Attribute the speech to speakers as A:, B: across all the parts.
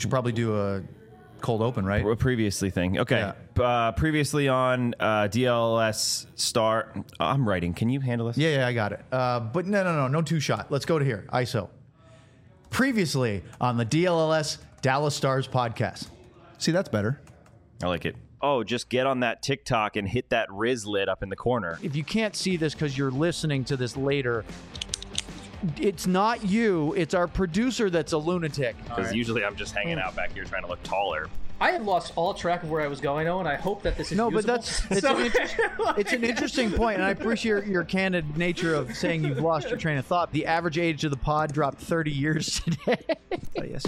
A: Should probably do a cold open, right?
B: A previously thing. Okay.
A: Yeah.
B: Previously on DLS Star. I'm writing. Can you handle this?
A: Yeah, I got it. But no two shot. Let's go to here. ISO. Previously on the DLS Dallas Stars podcast. See, that's better.
B: I like it. Oh, just get on that TikTok and hit that Riz lid up in the corner.
A: If you can't see this because you're listening to this later, it's not you. It's our producer that's a lunatic.
B: Because usually I'm just hanging out back here trying to look taller.
C: I had lost all track of where I was going, and I hope that this is
A: but
C: usable.
A: it's an interesting point, and I appreciate your candid nature of saying you've lost your train of thought. The average age of the pod dropped 30 years today. Yes.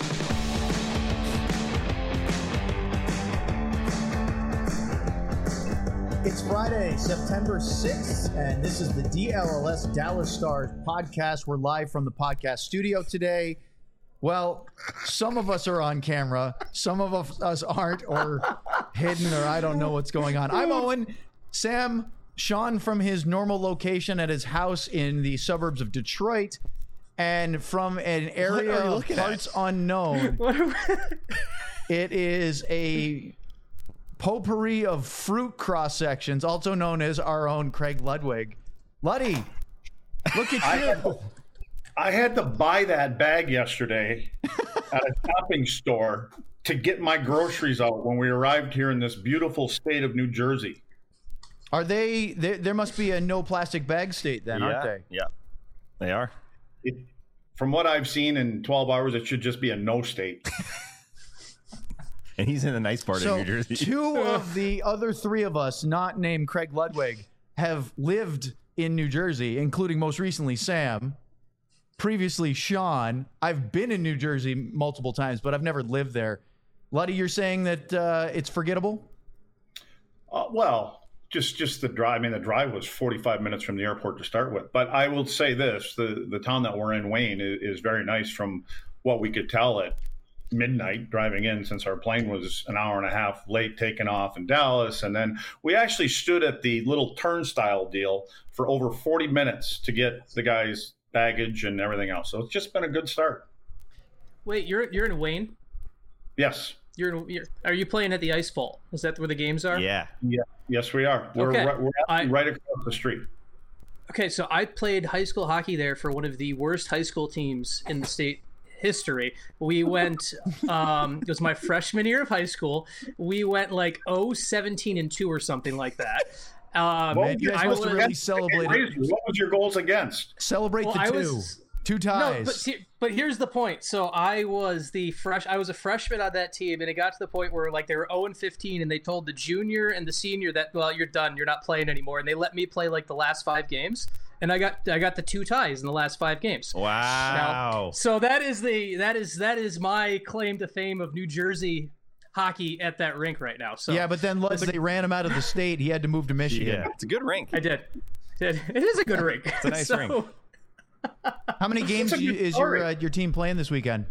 A: It's Friday, September 6th, and this is the DLS Dallas Stars podcast. We're live from the podcast studio today. Well, some of us are on camera, some of us aren't, or hidden, or I don't know what's going on. I'm Owen. Sam, Sean from his normal location at his house in the suburbs of Detroit, and from an area of parts unknown. It is a potpourri of fruit cross sections, also known as our own Craig Ludwig. Luddy, look at you.
D: I had to buy that bag yesterday at a shopping store to get my groceries out when we arrived here in this beautiful state of New Jersey.
A: Are they? There must be a no plastic bag state then, aren't they?
B: Yeah, they are.
D: From what I've seen in 12 hours, it should just be a no state.
B: And he's in the nice part of New Jersey.
A: Two of the other three of us, not named Craig Ludwig, have lived in New Jersey, including most recently Sam. Previously, Sean. I've been in New Jersey multiple times, but I've never lived there. Luddy, you're saying that it's forgettable?
D: Well, just the drive. I mean, the drive was 45 minutes from the airport to start with. But I will say this: the town that we're in, Wayne, is very nice from what we could tell at midnight driving in, since our plane was an hour and a half late taking off in Dallas. And then we actually stood at the little turnstile deal for over 40 minutes to get the guys' baggage and everything else. So it's just been a good start.
C: Wait, you're in Wayne?
D: Yes.
C: Are you playing at the Ice Bowl? Is that where the games are?
D: Yeah. Yes, we are. We're right across the street.
C: Okay, so I played high school hockey there for one of the worst high school teams in the state history. We went it was my freshman year of high school. We went like 17-2 or something like that.
A: You guys must have really celebrated.
D: What was your goals against?
A: Celebrate two ties.
C: No, but here's the point. So I was a freshman on that team, and it got to the point where like they were 0-15, and they told the junior and the senior that, well, you're done, you're not playing anymore, and they let me play like the last 5 games. And I got the 2 ties in the last 5 games.
B: Wow!
C: Now, so that is my claim to fame of New Jersey hockey at that rink right now. So
A: yeah, but then they ran him out of the state. He had to move to Michigan.
B: Yeah, it's a good rink.
C: I did. It is a good rink.
B: It's a nice rink.
A: How many games is your team playing this weekend?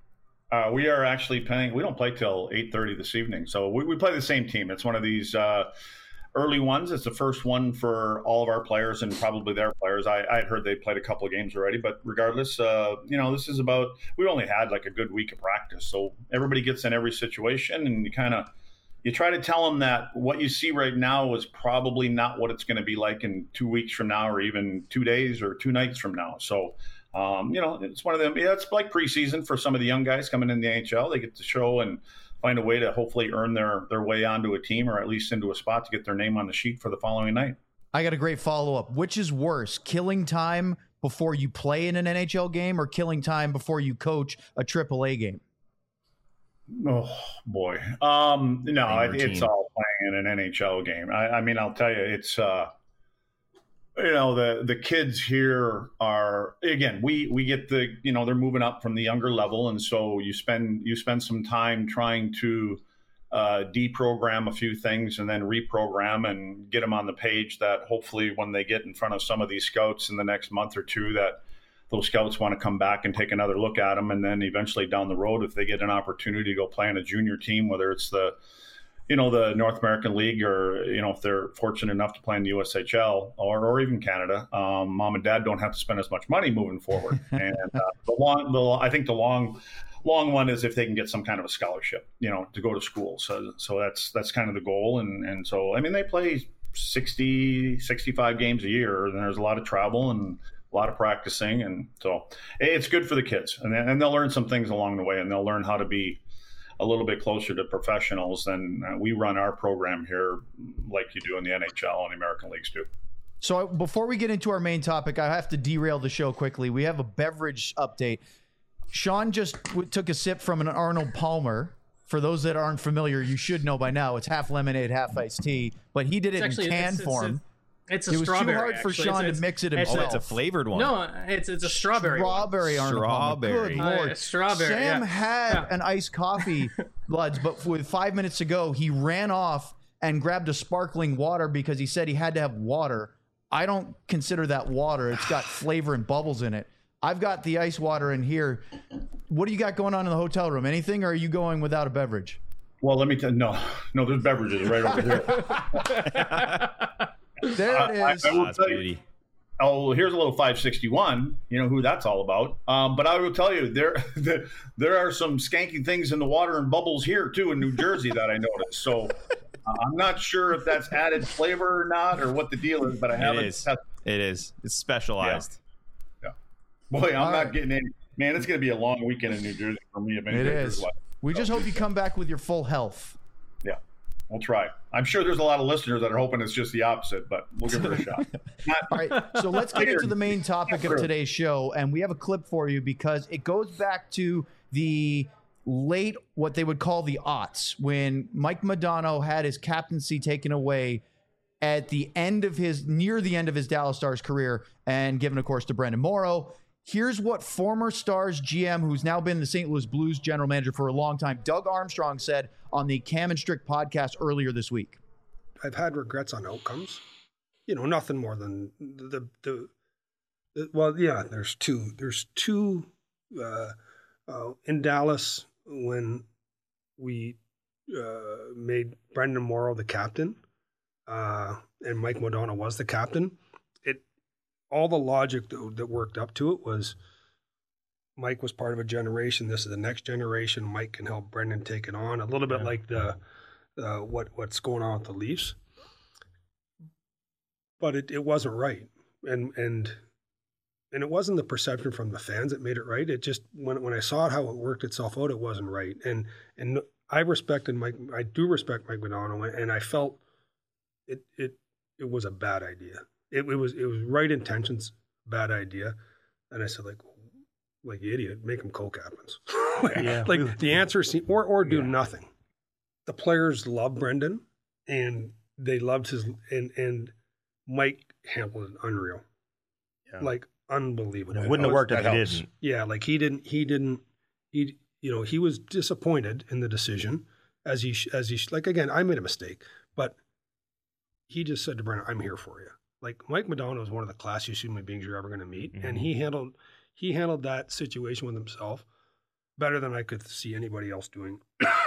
D: We are actually playing. We don't play till 8:30 this evening, so we play the same team. It's one of these early ones. It's the first one for all of our players and probably their players. I had heard they played a couple of games already, but regardless, this is about. We only had like a good week of practice, so everybody gets in every situation, and you try to tell them that what you see right now is probably not what it's going to be like in 2 weeks from now, or even 2 days or 2 nights from now. So, it's one of them. Yeah, it's like preseason for some of the young guys coming in the NHL. They get to show and find a way to hopefully earn their way onto a team, or at least into a spot to get their name on the sheet for the following night.
A: I got a great follow-up. Which is worse, killing time before you play in an NHL game, or killing time before you coach a AAA game?
D: Oh, boy. It's all playing in an NHL game. I mean, I'll tell you, it's, the kids here are, again, we get they're moving up from the younger level. And so you spend some time trying to deprogram a few things and then reprogram and get them on the page that hopefully when they get in front of some of these scouts in the next month or two, that those scouts want to come back and take another look at them. And then eventually down the road, if they get an opportunity to go play on a junior team, whether it's the North American League, or, if they're fortunate enough to play in the USHL or even Canada, mom and dad don't have to spend as much money moving forward. And I think the long one is if they can get some kind of a scholarship, to go to school. So that's kind of the goal. And so, I mean, they play 60, 65 games a year, and there's a lot of travel and a lot of practicing. And so it's good for the kids, and they'll learn some things along the way, and they'll learn how to be a little bit closer to professionals than we run our program here, like you do in the NHL and the American leagues too.
A: So before we get into our main topic, I have to derail the show quickly. We have a beverage update. Sean just took a sip from an Arnold Palmer. For those that aren't familiar, you should know by now. It's half lemonade, half iced tea. But he did it in can form.
C: It was
A: too hard for Sean to mix it himself.
B: It's a flavored one.
C: No, it's a strawberry.
A: Strawberry Arnold Palmer. Good Lord.
C: Strawberry.
A: Sam had an iced coffee, Bloods, but with 5 minutes to go, he ran off and grabbed a sparkling water because he said he had to have water. I don't consider that water. It's got flavor and bubbles in it. I've got the ice water in here. What do you got going on in the hotel room? Anything, or are you going without a beverage?
D: Well, let me tell you, no, there's beverages right over here.
A: There it is.
D: I will tell you, here's a little 561. You know who that's all about. But I will tell you, there are some skanky things in the water and bubbles here, too, in New Jersey that I noticed. So I'm not sure if that's added flavor or not, or what the deal is, but I haven't tested.
B: It is. It's specialized.
D: Yeah. Boy, I'm not getting any. Man, it's going to be a long weekend in New Jersey for me. If
A: it is. We just hope you come back with your full health.
D: Yeah, we'll try. I'm sure there's a lot of listeners that are hoping it's just the opposite, but we'll give it a shot.
A: All right, so let's get into the main topic of today's show, and we have a clip for you because it goes back to the late, what they would call the aughts, when Mike Modano had his captaincy taken away at near the end of his Dallas Stars career, and given, of course, to Brendan Morrow. Here's what former Stars GM, who's now been the St. Louis Blues general manager for a long time, Doug Armstrong, said on the Cam and Strick podcast earlier this week.
E: I've had regrets on outcomes. Nothing more than there's two. There's two in Dallas when we made Brendan Morrow the captain and Mike Modano was the captain. All the logic that worked up to it was Mike was part of a generation. This is the next generation. Mike can help Brendan take it on. A little bit like what's going on with the Leafs. But it wasn't right. And it wasn't the perception from the fans that made it right. It just, when I saw how it worked itself out, it wasn't right. And I respected Mike. I do respect Mike Modano, and I felt it was a bad idea. It was right intentions, bad idea. And I said, like idiot, make them co-captains. The answer is, or do nothing. The players love Brendan, and they loved his, and Mike handled it unreal. Yeah. Unbelievable.
F: It wouldn't have worked if he didn't.
E: Yeah, he was disappointed in the decision as he again, I made a mistake, but he just said to Brendan, I'm here for you. Mike Modano is one of the classiest human beings you're ever going to meet. Mm-hmm. And he handled that situation with himself better than I could see anybody else doing.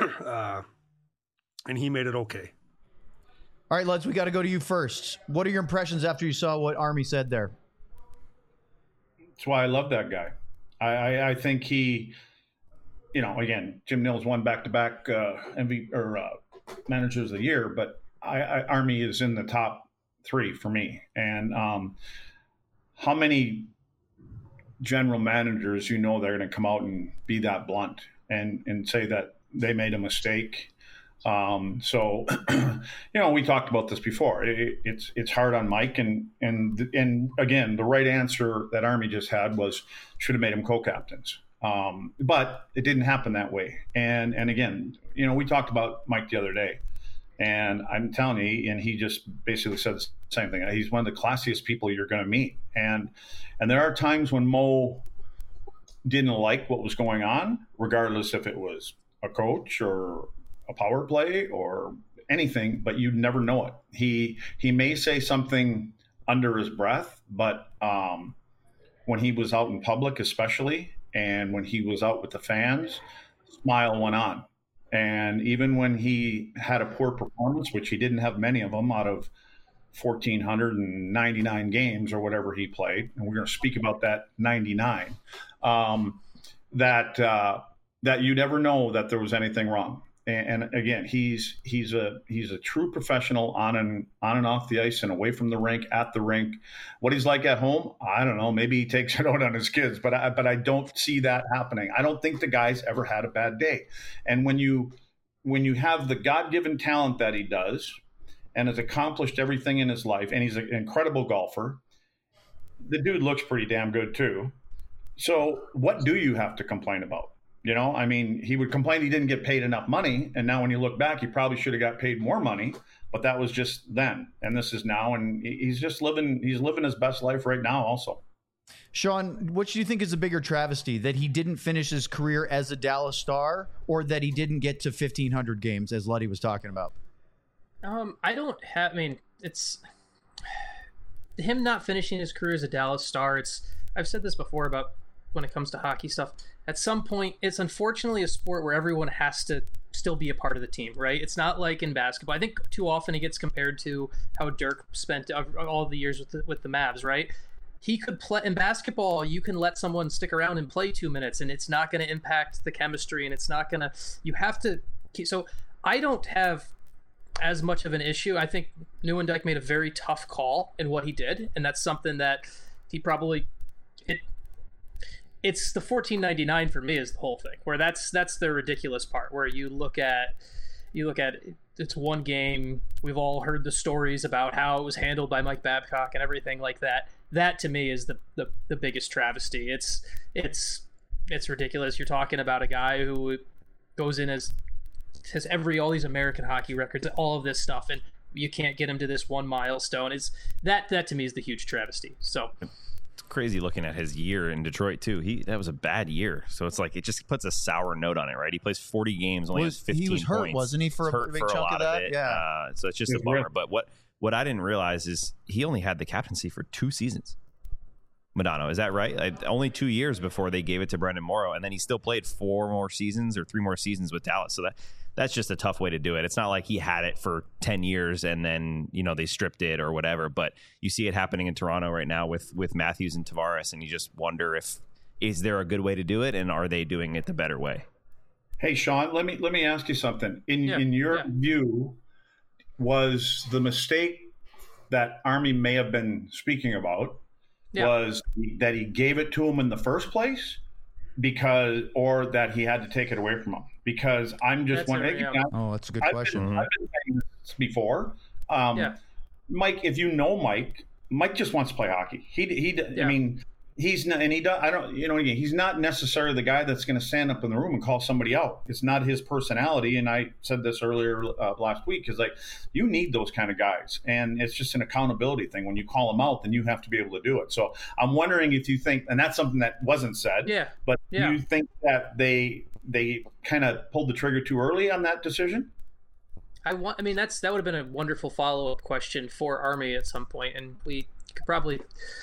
E: And he made it okay.
A: All right, Lutz, we got to go to you first. What are your impressions after you saw what Army said there?
D: That's why I love that guy. I think he, again, Jim Nils won back-to-back MVP or Managers of the Year, but Army is in the top 3 for me. And how many general managers they're going to come out and be that blunt and say that they made a mistake? So we talked about this before. It's hard on Mike, and again, the right answer that Army just had was should have made him co-captains. But it didn't happen that way. And again, we talked about Mike the other day. And I'm telling you, and he just basically said the same thing. He's one of the classiest people you're going to meet. And there are times when Mo didn't like what was going on, regardless if it was a coach or a power play or anything, but you'd never know it. He may say something under his breath, but when he was out in public especially, and when he was out with the fans, smile went on. And even when he had a poor performance, which he didn't have many of them out of 1,499 games or whatever he played, and we're going to speak about that 99, that you'd ever know that there was anything wrong. And again, he's a true professional on and off the ice and away from the rink, at the rink. What he's like at home, I don't know. Maybe he takes it out on his kids, but I don't see that happening. I don't think the guy's ever had a bad day. And when you have the God-given talent that he does, and has accomplished everything in his life, and he's an incredible golfer, the dude looks pretty damn good too. So what do you have to complain about? You know, I mean, he would complain he didn't get paid enough money. And now when you look back, he probably should have got paid more money, but that was just then. And this is now. And he's living his best life right now also.
A: Sean, what do you think is a bigger travesty, that he didn't finish his career as a Dallas Star, or that he didn't get to 1,500 games, as Luddy was talking about?
C: It's him not finishing his career as a Dallas Star. I've said this before about when it comes to hockey stuff. At some point, it's unfortunately a sport where everyone has to still be a part of the team, right? It's not like in basketball. I think too often he gets compared to how Dirk spent all the years with the Mavs, right? He could play in basketball. You can let someone stick around and play 2 minutes, and it's not going to impact the chemistry, and it's not going to. You have to. So I don't have as much of an issue. I think Nieuwendyk made a very tough call in what he did, and that's something that he probably. It's the $14.99 for me is the whole thing, where that's the ridiculous part, where you look at it's one game. We've all heard the stories about how it was handled by Mike Babcock and everything like that. That to me is the biggest travesty. It's ridiculous. You're talking about a guy who goes in has all these American hockey records, all of this stuff, and you can't get him to this one milestone. It's that to me is the huge travesty. So
B: it's crazy looking at his year in Detroit too. That was a bad year, so it's like it just puts a sour note on it, right? He plays 40 games, only has 15 points.
A: He was hurt, wasn't he, for a big chunk of that?
B: Yeah. So it's just a bummer. But what I didn't realize is he only had the captaincy for 2 seasons. Modano, is that right? Only 2 years before they gave it to Brendan Morrow, and then he still played 4 more seasons or 3 more seasons with Dallas. So that's just a tough way to do it. It's not like he had it for 10 years and then, they stripped it or whatever. But you see it happening in Toronto right now with Matthews and Tavares, and you just wonder is there a good way to do it, and are they doing it the better way?
D: Hey, Sean, let me ask you something. In your view, was the mistake that Army may have been speaking about was that he gave it to him in the first place, or that he had to take it away from him? Because I'm just wondering.
A: Oh, that's a good question.
D: I've been saying this before. Mike, if you know Mike just wants to play hockey. I mean, he's not, and he does. I don't. Again, he's not necessarily the guy that's going to stand up in the room and call somebody out. It's not his personality. And I said this earlier last week, is like, you need those kind of guys, and it's just an accountability thing. When you call them out, then you have to be able to do it. So I'm wondering if you think, and that's something that wasn't said. But do you think that they kind of pulled the trigger too early on that decision?
C: That would have been a wonderful follow-up question for Army at some point, and we could probably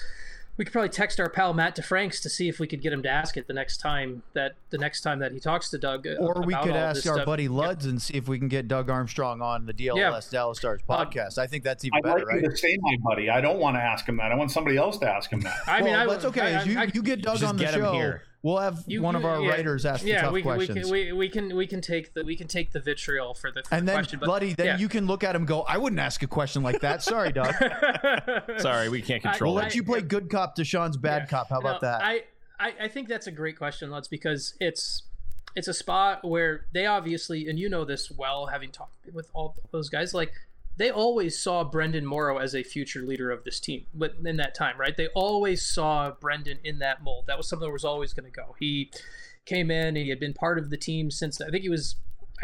C: text our pal Matt DeFranks to see if we could get him to ask it the next time that he talks to Doug.
A: Or we could ask our buddy Luds and see if we can get Doug Armstrong on the DLS Dallas Stars podcast. I think that's even better, right?
D: I'd like to say my buddy. I don't want to ask him that. I want somebody else to ask him that.
A: That's okay. You get Doug on the show here. We'll have one of our writers ask the tough questions.
C: We can take the vitriol for the
A: and then,
C: question.
A: Bloody, then you can look at him and go, I wouldn't ask a question like that. Sorry, Doug.
B: Sorry, we can't control it.
A: We'll let you play good cop to Sean's bad cop. How about that?
C: I think that's a great question, Lutz, because it's a spot where they obviously, and you know this well, having talked with all those guys, like, they always saw Brendan Morrow as a future leader of this team in that time, right? They always saw Brendan in that mold. That was something that was always going to go. He came in and he had been part of the team since, I think he was,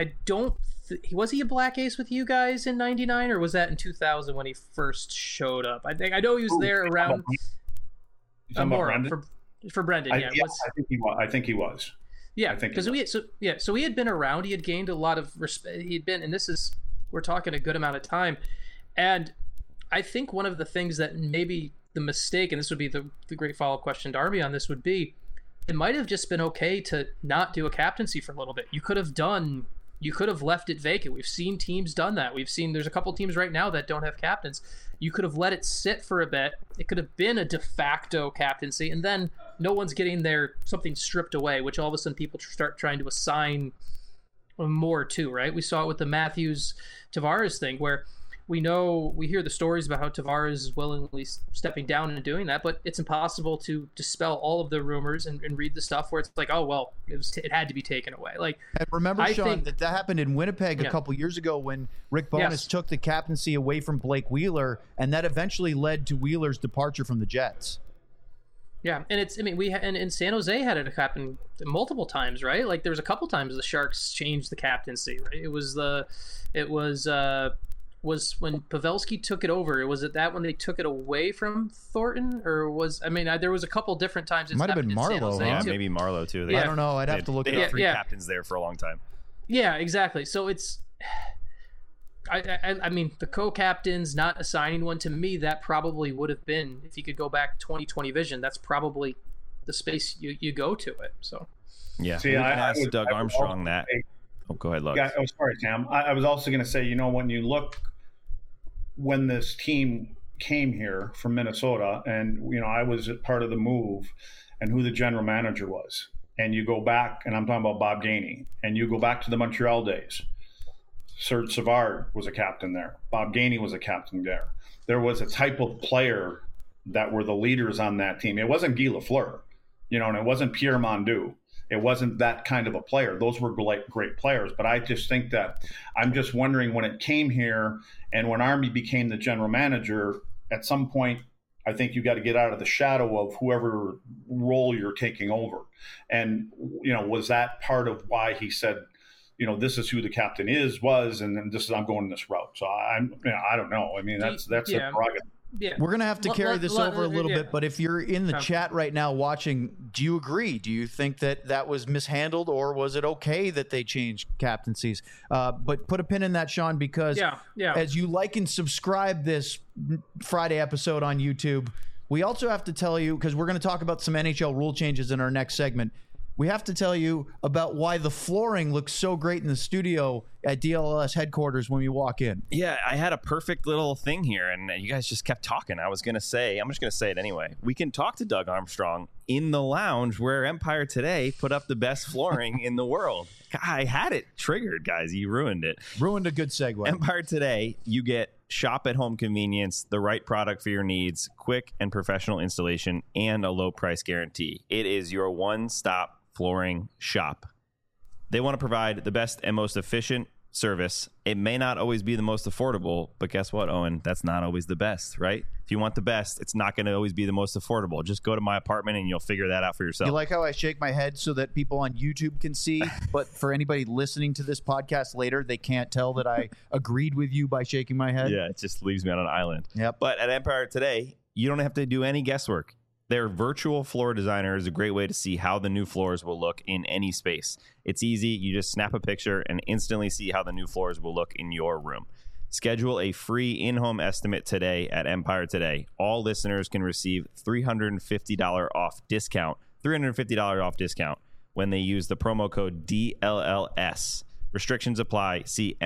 C: was he a Black Ace with you guys in 99, or was that in 2000 when he first showed up? I know he was there around Morrow for Brendan.
D: I think he was.
C: Yeah, because so he had been around. He had gained a lot of respect. He'd been, and we're talking a good amount of time. And I think one of the things that maybe the mistake, and this would be the great follow-up question to Army on this, would be, it might have just been okay to not do a captaincy for a little bit. You could have left it vacant. We've seen teams done that. There's a couple teams right now that don't have captains. You could have let it sit for a bit. It could have been a de facto captaincy, and then no one's getting something stripped away, which all of a sudden people start trying to assign more to, right? We saw it with the Matthews Tavares thing, where we hear the stories about how Tavares is willingly stepping down and doing that, but it's impossible to dispel all of the rumors and read the stuff where it's like, oh, well, it had to be taken away. Like,
A: and remember, Sean, that happened in Winnipeg a couple years ago when Rick Bowness took the captaincy away from Blake Wheeler, and that eventually led to Wheeler's departure from the Jets.
C: Yeah, and in San Jose had it happen multiple times, right? Like, there was a couple times the Sharks changed the captaincy, right? It was when Pavelski took it over. Was it that when they took it away from Thornton, or there was a couple different times.
A: It might have been Marleau.
B: Yeah, maybe Marleau too.
A: I don't know. I'd have to look at
B: three captains there for a long time.
C: Yeah, exactly. So it's, I mean, the co-captains not assigning one, to me, that probably would have been, if you could go back 20/20 vision, that's probably the space you go to it. So
B: yeah, see, I asked Doug Armstrong that. Go ahead, Lug.
D: Yeah, sorry, Sam. I was also going to say, when you look, when this team came here from Minnesota, and I was part of the move, and who the general manager was, and you go back, and I'm talking about Bob Gainey, and you go back to the Montreal days. Serge Savard was a captain there. Bob Gainey was a captain there. There was a type of player that were the leaders on that team. It wasn't Guy Lafleur, and it wasn't Pierre Mondu. It wasn't that kind of a player. Those were great players. But I just think that I'm just wondering, when it came here and when Army became the general manager, at some point, I think you got to get out of the shadow of whoever role you're taking over. And, was that part of why he said, this is who the captain was, and then I'm going this route. So I don't know. I mean, that's the prerogative.
C: Yeah.
A: We're going to have to carry this over a little bit, but if you're in the chat right now watching, do you agree? Do you think that was mishandled, or was it okay that they changed captaincies? But put a pin in that, Sean, because as you like and subscribe this Friday episode on YouTube, we also have to tell you, because we're going to talk about some NHL rule changes in our next segment, we have to tell you about why the flooring looks so great in the studio at DLLS headquarters when we walk in.
B: Yeah, I had a perfect little thing here, and you guys just kept talking. I'm just going to say it anyway. We can talk to Doug Armstrong in the lounge where Empire Today put up the best flooring in the world. I had it triggered, guys. You ruined it.
A: Ruined a good segue.
B: Empire Today, you get shop-at-home convenience, the right product for your needs, quick and professional installation, and a low price guarantee. It is your one-stop flooring shop. They want to provide the best and most efficient service. It may not always be the most affordable, but guess what, Owen? That's not always the best, right? If you want the best, it's not going to always be the most affordable. Just go to my apartment and you'll figure that out for yourself.
A: You like how I shake my head so that people on YouTube can see, but for anybody listening to this podcast later, they can't tell that I agreed with you by shaking my head?
B: Yeah, it just leaves me on an island.
A: Yep.
B: But at Empire Today, you don't have to do any guesswork. Their virtual floor designer is a great way to see how the new floors will look in any space. It's easy. You just snap a picture and instantly see how the new floors will look in your room. Schedule a free in-home estimate today at Empire Today. All listeners can receive $350 off discount when they use the promo code DLLS. Restrictions apply. See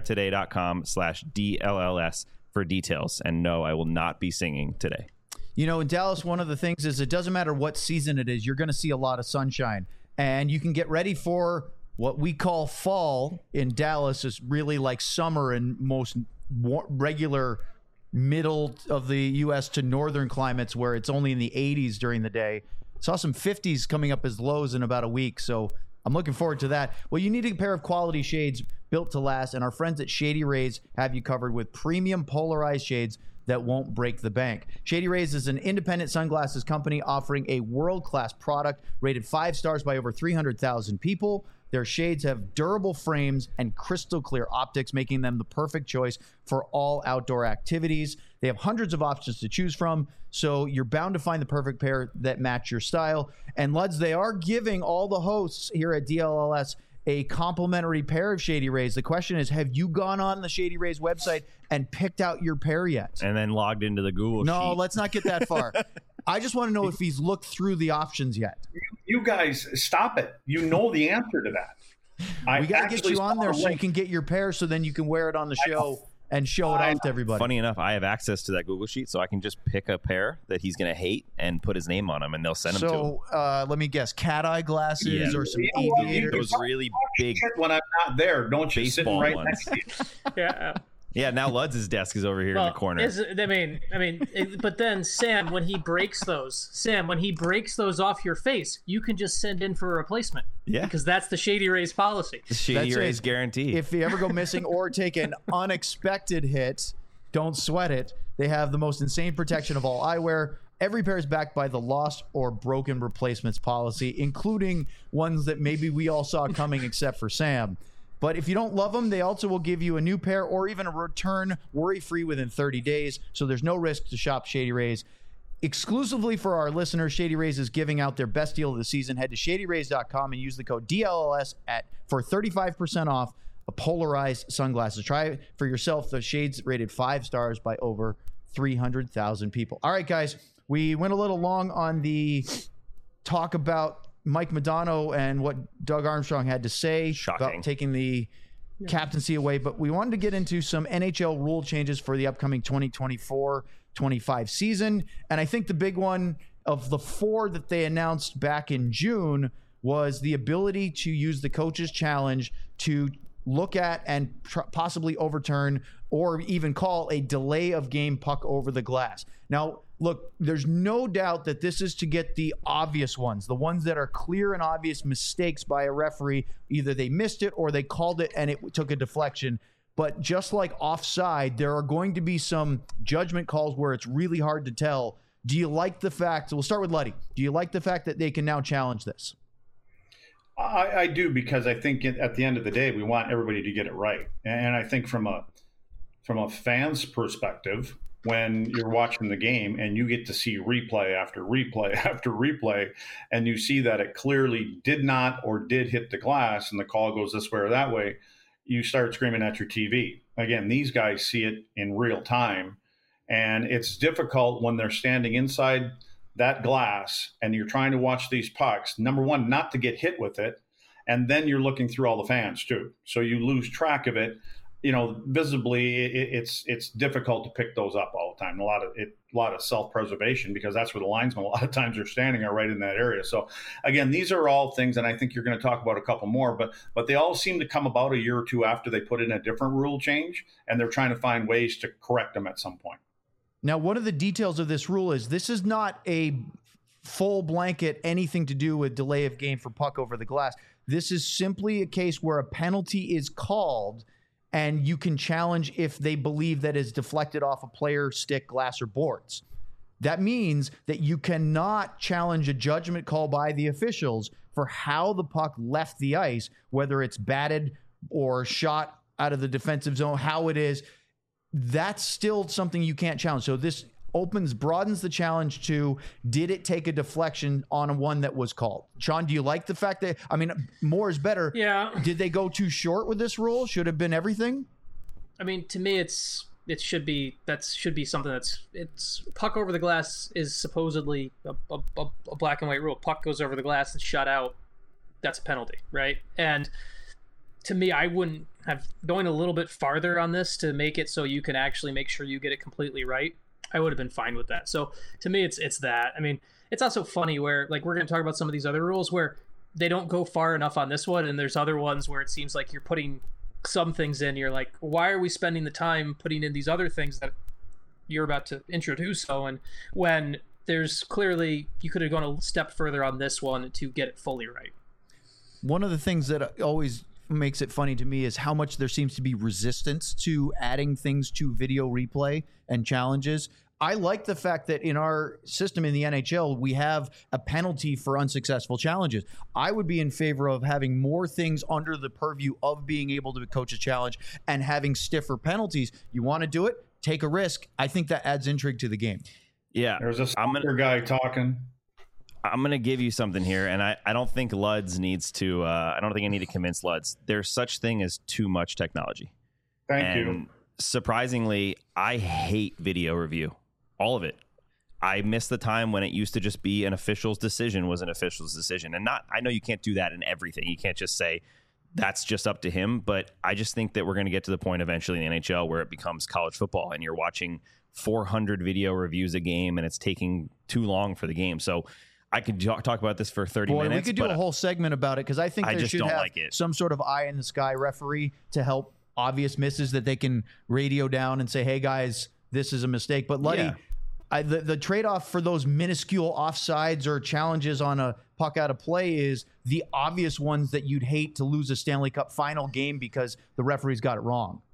B: empiretoday.com/DLLS for details. And no, I will not be singing today.
A: In Dallas, one of the things is it doesn't matter what season it is, you're going to see a lot of sunshine. And you can get ready for what we call fall in Dallas is really like summer in most regular middle of the U.S. to northern climates where it's only in the 80s during the day. Saw some 50s coming up as lows in about a week, so I'm looking forward to that. Well, you need a pair of quality shades built to last, and our friends at Shady Rays have you covered with premium polarized shades that won't break the bank. Shady Rays is an independent sunglasses company offering a world-class product rated 5 stars by over 300,000 people. Their shades have durable frames and crystal clear optics, making them the perfect choice for all outdoor activities. They have hundreds of options to choose from, so you're bound to find the perfect pair that match your style. And Luds, they are giving all the hosts here at DLLS a complimentary pair of Shady Rays. The question is, have you gone on the Shady Rays website and picked out your pair yet?
B: And then logged into the Google
A: No,
B: sheet.
A: Let's not get that far. I just want to know if he's looked through the options yet.
D: You guys, stop it. You know the answer to that.
A: We got to get you on there so you can get your pair so then you can wear it on the show and show it off to everybody.
B: Funny enough, I have access to that Google Sheet, so I can just pick a pair that he's going to hate and put his name on them, and they'll send them to him.
A: So let me guess, cat eye glasses or some aviators.
B: Those really big
D: when I'm not there, don't you sit right
B: ones.
D: next to you?
C: Yeah.
B: Yeah, now Ludz's desk is over here in the corner.
C: But then Sam, when he breaks those off your face, you can just send in for a replacement.
B: Yeah,
C: because that's the Shady Rays policy.
B: The Shady Rays guarantee.
A: If you ever go missing or take an unexpected hit, don't sweat it. They have the most insane protection of all eyewear. Every pair is backed by the lost or broken replacements policy, including ones that maybe we all saw coming except for Sam. But if you don't love them, they also will give you a new pair or even a return worry-free within 30 days. So there's no risk to shop Shady Rays. Exclusively for our listeners, Shady Rays is giving out their best deal of the season. Head to shadyrays.com and use the code DLLS for 35% off a polarized sunglasses. Try it for yourself. The shades rated 5 stars by over 300,000 people. All right, guys, we went a little long on the talk about Mike Modano and what Doug Armstrong had to say about taking the captaincy away, but we wanted to get into some NHL rule changes for the upcoming 2024-25 season. And I think the big one of the 4 that they announced back in June was the ability to use the coach's challenge to look at and possibly overturn or even call a delay of game puck over the glass. Now, look, there's no doubt that this is to get the obvious ones, the ones that are clear and obvious mistakes by a referee. Either they missed it or they called it and it took a deflection. But just like offside, there are going to be some judgment calls where it's really hard to tell. Do you like the fact, so we'll start with Luddy. Do you like the fact that they can now challenge this?
D: I do, because I think at the end of the day, we want everybody to get it right. And I think from a fan's perspective, when you're watching the game and you get to see replay after replay after replay, and you see that it clearly did not or did hit the glass and the call goes this way or that way, you start screaming at your TV. Again, these guys see it in real time, and it's difficult when they're standing inside that glass and you're trying to watch these pucks, number one, not to get hit with it, and then you're looking through all the fans too. So you lose track of it. Visibly, it's difficult to pick those up all the time. A lot of self-preservation, because that's where the linesmen a lot of times are standing, are right in that area. So again, these are all things, and I think you're going to talk about a couple more, but they all seem to come about a year or two after they put in a different rule change, and they're trying to find ways to correct them at some point.
A: Now, one of the details of this rule is this is not a full blanket anything to do with delay of game for puck over the glass. This is simply a case where a penalty is called and you can challenge if they believe that is deflected off a player, stick, glass, or boards. That means that you cannot challenge a judgment call by the officials for how the puck left the ice, whether it's batted or shot out of the defensive zone, how it is. That's still something you can't challenge. So this broadens the challenge to, did it take a deflection on one that was called? Sean, do you like the fact that, more is better.
C: Yeah.
A: Did they go too short with this rule? Should have been everything?
C: To me, it should be something it's puck over the glass is supposedly a black and white rule. Puck goes over the glass and shut out. That's a penalty, right? And to me, I wouldn't have going a little bit farther on this to make it so you can actually make sure you get it completely right. I would have been fine with that. So to me, it's that. It's also funny where, like, we're going to talk about some of these other rules where they don't go far enough on this one, and there's other ones where it seems like you're putting some things in. You're like, why are we spending the time putting in these other things that you're about to introduce? So, and when there's clearly, you could have gone a step further on this one to get it fully right.
A: One of the things that always makes it funny to me is how much there seems to be resistance to adding things to video replay and challenges. I like the fact that in our system in the NHL, we have a penalty for unsuccessful challenges. I would be in favor of having more things under the purview of being able to coach a challenge and having stiffer penalties. You want to do it? Take a risk. I think that adds intrigue to the game.
B: Yeah.
D: There's a soccer guy talking.
B: I'm going to give you something here, and I don't think Luds needs to I don't think I need to convince Luds. There's such thing as too much technology.
D: Thank you.
B: Surprisingly, I hate video review. All of it. I miss the time when it used to just be an official's decision was an official's decision. And I know you can't do that in everything. You can't just say that's just up to him. But I just think that we're going to get to the point eventually in the NHL where it becomes college football and you're watching 400 video reviews a game and it's taking too long for the game. So I could talk about this for 30 minutes.
A: We could do a whole segment about it because I think there should have some sort of eye in the sky referee to help obvious misses that they can radio down and say, hey, guys, this is a mistake. But Luddy, the trade-off for those minuscule offsides or challenges on a puck out of play is the obvious ones that you'd hate to lose a Stanley Cup final game because the referees got it wrong.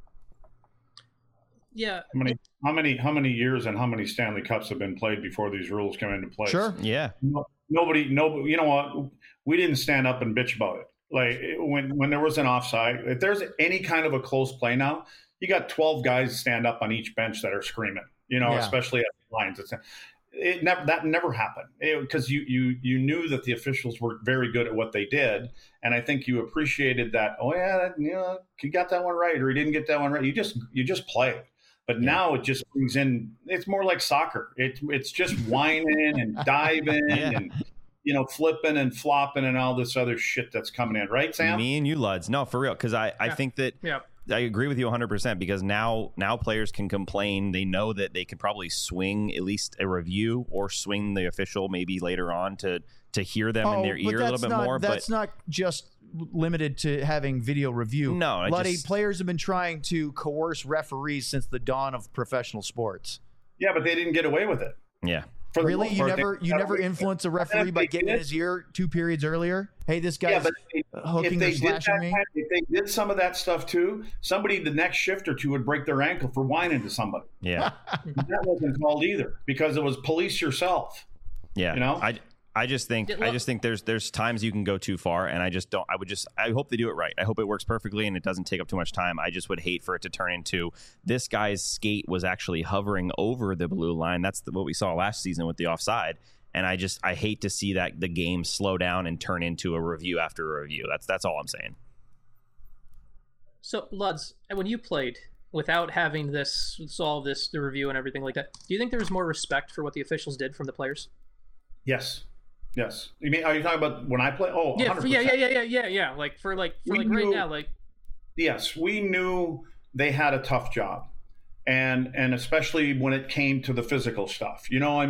C: Yeah.
D: How many years and how many Stanley Cups have been played before these rules come into place?
A: Sure.
B: Yeah.
D: Nobody. You know what? We didn't stand up and bitch about it. Like when there was an offside, if there's any kind of a close play now, you got 12 guys stand up on each bench that are screaming. Especially at the lines. That never happened because you knew that the officials were very good at what they did, and I think you appreciated that. Oh yeah, he got that one right, or he didn't get that one right. You just play. But now it just brings in. It's more like soccer. It's just whining and diving and flipping and flopping and all this other shit that's coming in, right, Sam?
B: Me and you, Luds. No, for real, because I think that. Yeah. I agree with you 100% because now players can complain. They know that they could probably swing at least a review or swing the official maybe later on to hear them in their ear a little bit more.
A: That's not just limited to having video review.
B: No,
A: players have been trying to coerce referees since the dawn of professional sports.
D: Yeah, but they didn't get away with it.
B: Yeah.
A: Really? You never influence a referee by getting in his ear 2 periods earlier? Hey, this guy's hooking or slashing me?
D: If they did some of that stuff too, somebody the next shift or two would break their ankle for whining to somebody.
B: Yeah.
D: That wasn't called either because it was police yourself.
B: Yeah. I just think there's times you can go too far, and I hope they do it right. I hope it works perfectly and it doesn't take up too much time. I just would hate for it to turn into this guy's skate was actually hovering over the blue line. That's what we saw last season with the offside. And I hate to see that the game slow down and turn into a review after a review. That's all I'm saying.
C: So Luds, when you played without having the review and everything like that, do you think there was more respect for what the officials did from the players?
D: Yes. You mean, are you talking about when I play? Oh,
C: yeah, 100%. Yeah. Like right now,
D: Yes, we knew they had a tough job, and especially when it came to the physical stuff.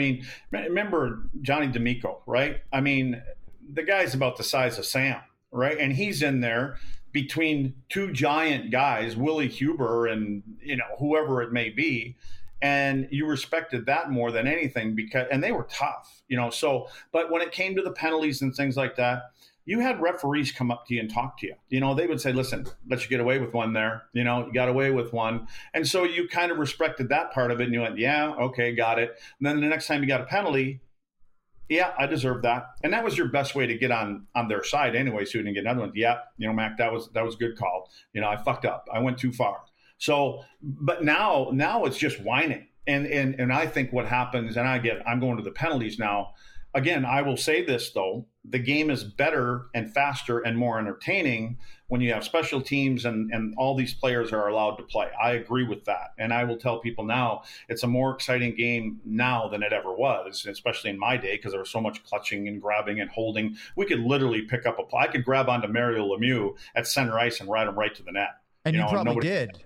D: Remember Johnny D'Amico, right? I mean, the guy's about the size of Sam, right? And he's in there between two giant guys, Willie Huber and whoever it may be. And you respected that more than anything and they were tough, so, but when it came to the penalties and things like that, you had referees come up to you and talk to you. They would say, listen, let you get away with one there. You got away with one. And so you kind of respected that part of it. And you went, yeah, okay, got it. And then the next time you got a penalty, yeah, I deserve that. And that was your best way to get on their side anyway. So you didn't get another one. Yeah, Mac, that was a good call. I fucked up. I went too far. So, but now it's just whining. And I think what happens, and I'm going to the penalties now. Again, I will say this though, the game is better and faster and more entertaining when you have special teams and all these players are allowed to play. I agree with that. And I will tell people now, it's a more exciting game now than it ever was, especially in my day, because there was so much clutching and grabbing and holding. We could literally pick up I could grab onto Mario Lemieux at center ice and ride him right to the net.
A: And you probably did.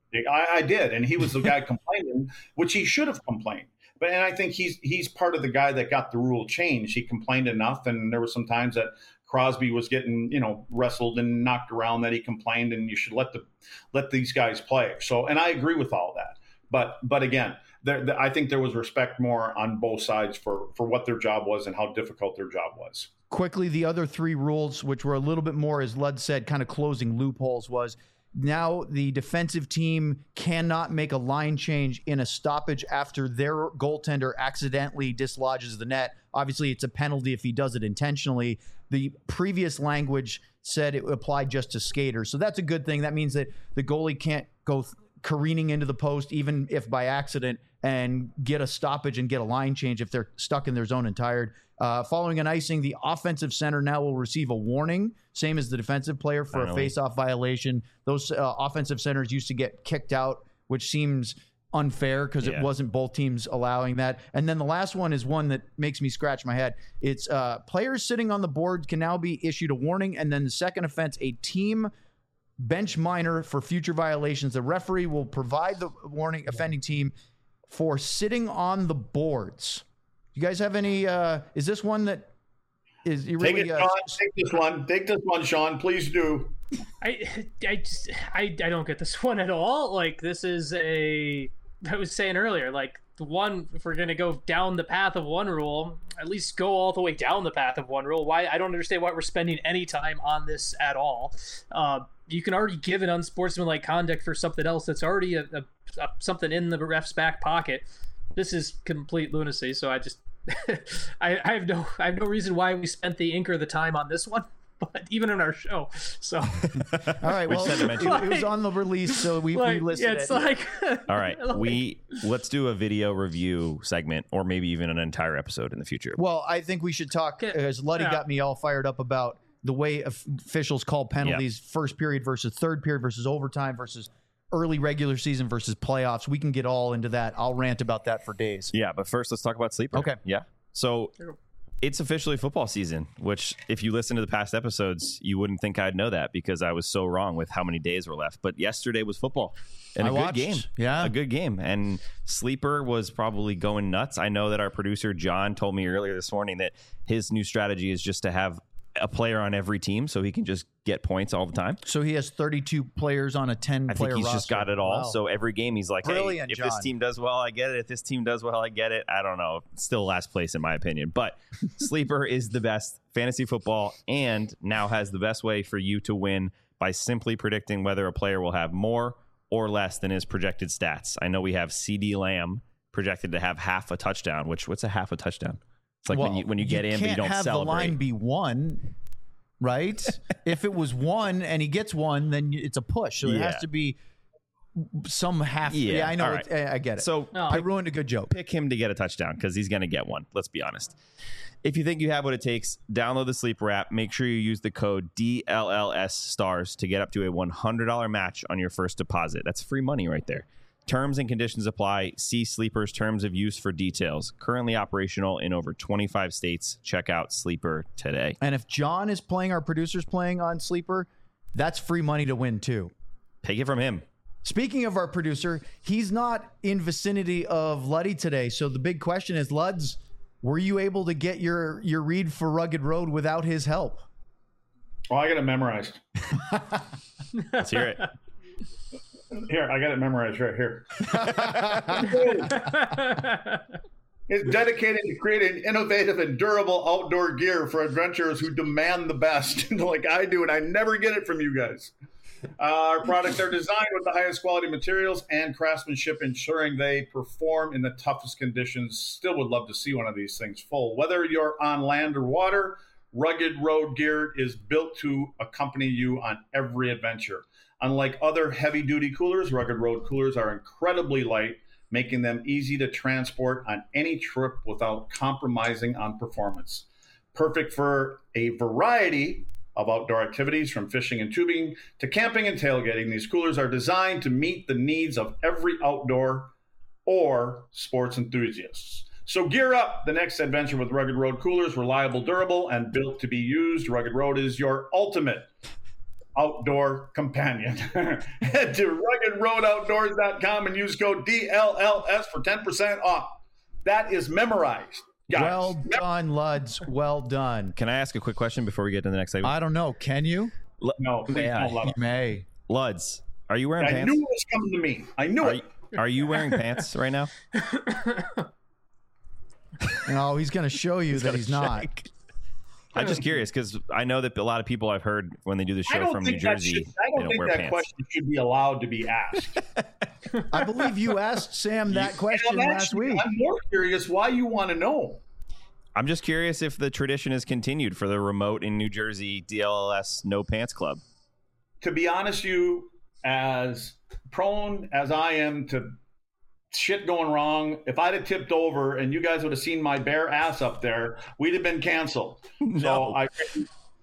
D: I did, and he was the guy complaining, which he should have complained. And I think he's part of the guy that got the rule changed. He complained enough, and there were some times that Crosby was getting wrestled and knocked around that he complained, and you should let these guys play. So, and I agree with all that. But again, I think there was respect more on both sides for what their job was and how difficult their job was.
A: Quickly, the other 3 rules, which were a little bit more, as Lud said, kind of closing loopholes, was now the defensive team cannot make a line change in a stoppage after their goaltender accidentally dislodges the net. Obviously, it's a penalty if he does it intentionally. The previous language said it applied just to skaters. So that's a good thing. That means that the goalie can't go careening into the post, even if by accident, and get a stoppage and get a line change if they're stuck in their zone and tired. Following an icing, the offensive center now will receive a warning, same as the defensive player, for a face-off violation. Those offensive centers used to get kicked out, which seems unfair because it wasn't both teams allowing that. And then the last one is one that makes me scratch my head. It's players sitting on the board can now be issued a warning, and then the second offense, a team bench minor for future violations. The referee will provide the warning offending team for sitting on the boards. You guys have any is this one that is you really
D: take this one, Sean, please do.
C: I don't get this one at all. Like, this is I was saying earlier, like, the one, if we're going to go down the path of one rule, at least go all the way down the path of one rule. Why? I don't understand why we're spending any time on this at all. You can already give an unsportsmanlike conduct for something else that's already something in the ref's back pocket. This is complete lunacy. So I just I have no reason why we spent the ink or the time on this one. But even in our show, so
A: all right. Well, it was on the release, so we listed it.
C: It's like
B: all right. Let's do a video review segment, or maybe even an entire episode in the future.
A: Well, I think we should talk, as Luddy got me all fired up about the way officials call penalties: first period versus third period versus overtime versus early regular season versus playoffs. We can get all into that. I'll rant about that for days.
B: Yeah, but first, let's talk about Sleeper.
A: Okay.
B: Yeah. So. It's officially football season, which if you listen to the past episodes, you wouldn't think I'd know that because I was so wrong with how many days were left. But yesterday was football and good game.
A: Yeah,
B: a good game. And Sleeper was probably going nuts. I know that our producer, John, told me earlier this morning that his new strategy is just to have a player on every team so he can just get points all the time.
A: So he has 32 players on a 10-player roster.
B: I think he's just got it all. Wow. So every game he's like,
A: brilliant,
B: hey, if
A: John.
B: This team does well, I get it. If this team does well, I get it. I don't know. Still last place in my opinion. But Sleeper is the best fantasy football and now has the best way for you to win by simply predicting whether a player will have more or less than his projected stats. I know we have CeeDee Lamb projected to have half a touchdown, what's a half a touchdown? It's like when you get in, but you don't celebrate. You can't have the line
A: be one, right? If it was one and he gets one, then it's a push. So it has to be some half. Yeah, I know. Right. I get it.
B: So
A: I ruined a good joke.
B: Pick him to get a touchdown because he's going to get one. Let's be honest. If you think you have what it takes, download the Sleeper app. Make sure you use the code DLLS stars to get up to a $100 match on your first deposit. That's free money right there. Terms and conditions apply. See Sleeper's terms of use for details. Currently operational in over 25 states. Check out Sleeper today.
A: And if John is playing, our producer's playing on Sleeper, that's free money to win too.
B: Take it from him.
A: Speaking of our producer, he's not in vicinity of Luddy today. So the big question is, Luds, were you able to get your read for Rugged Road without his help?
D: Oh, I got it memorized.
B: Let's hear it.
D: Here, I got it memorized right here. It's dedicated to creating innovative and durable outdoor gear for adventurers who demand the best, like I do, and I never get it from you guys. Our products are designed with the highest quality materials and craftsmanship, ensuring they perform in the toughest conditions. Still would love to see one of these things full. Whether you're on land or water, Rugged Road gear is built to accompany you on every adventure. Unlike other heavy-duty coolers, Rugged Road coolers are incredibly light, making them easy to transport on any trip without compromising on performance. Perfect for a variety of outdoor activities, from fishing and tubing to camping and tailgating. These coolers are designed to meet the needs of every outdoor or sports enthusiasts. So gear up the next adventure with Rugged Road coolers, reliable, durable, and built to be used. Rugged Road is your ultimate outdoor companion. Head to ruggedroadoutdoors.com and use code DLLS for 10% off. That is memorized. Guys.
A: Well done, Luds. Well done.
B: Can I ask a quick question before we get to the next segment?
A: I don't know. Can you?
D: No, please don't let
A: you may.
B: Luds, are you wearing pants?
D: I knew it was coming to me. I knew it.
B: Are you wearing pants right now?
A: No, he's going to show you that he's not.
B: I'm just curious because I know that a lot of people I've heard when they do the show from New Jersey,
D: I don't think that question should be allowed to be asked.
A: I believe you asked Sam that question last week.
D: I'm more curious why you want to know.
B: I'm just curious if the tradition is continued for the remote in New Jersey DLLS No Pants Club.
D: To be honest, you as prone as I am to shit going wrong, if I'd have tipped over and you guys would have seen my bare ass up there, we'd have been canceled.
B: No.
D: So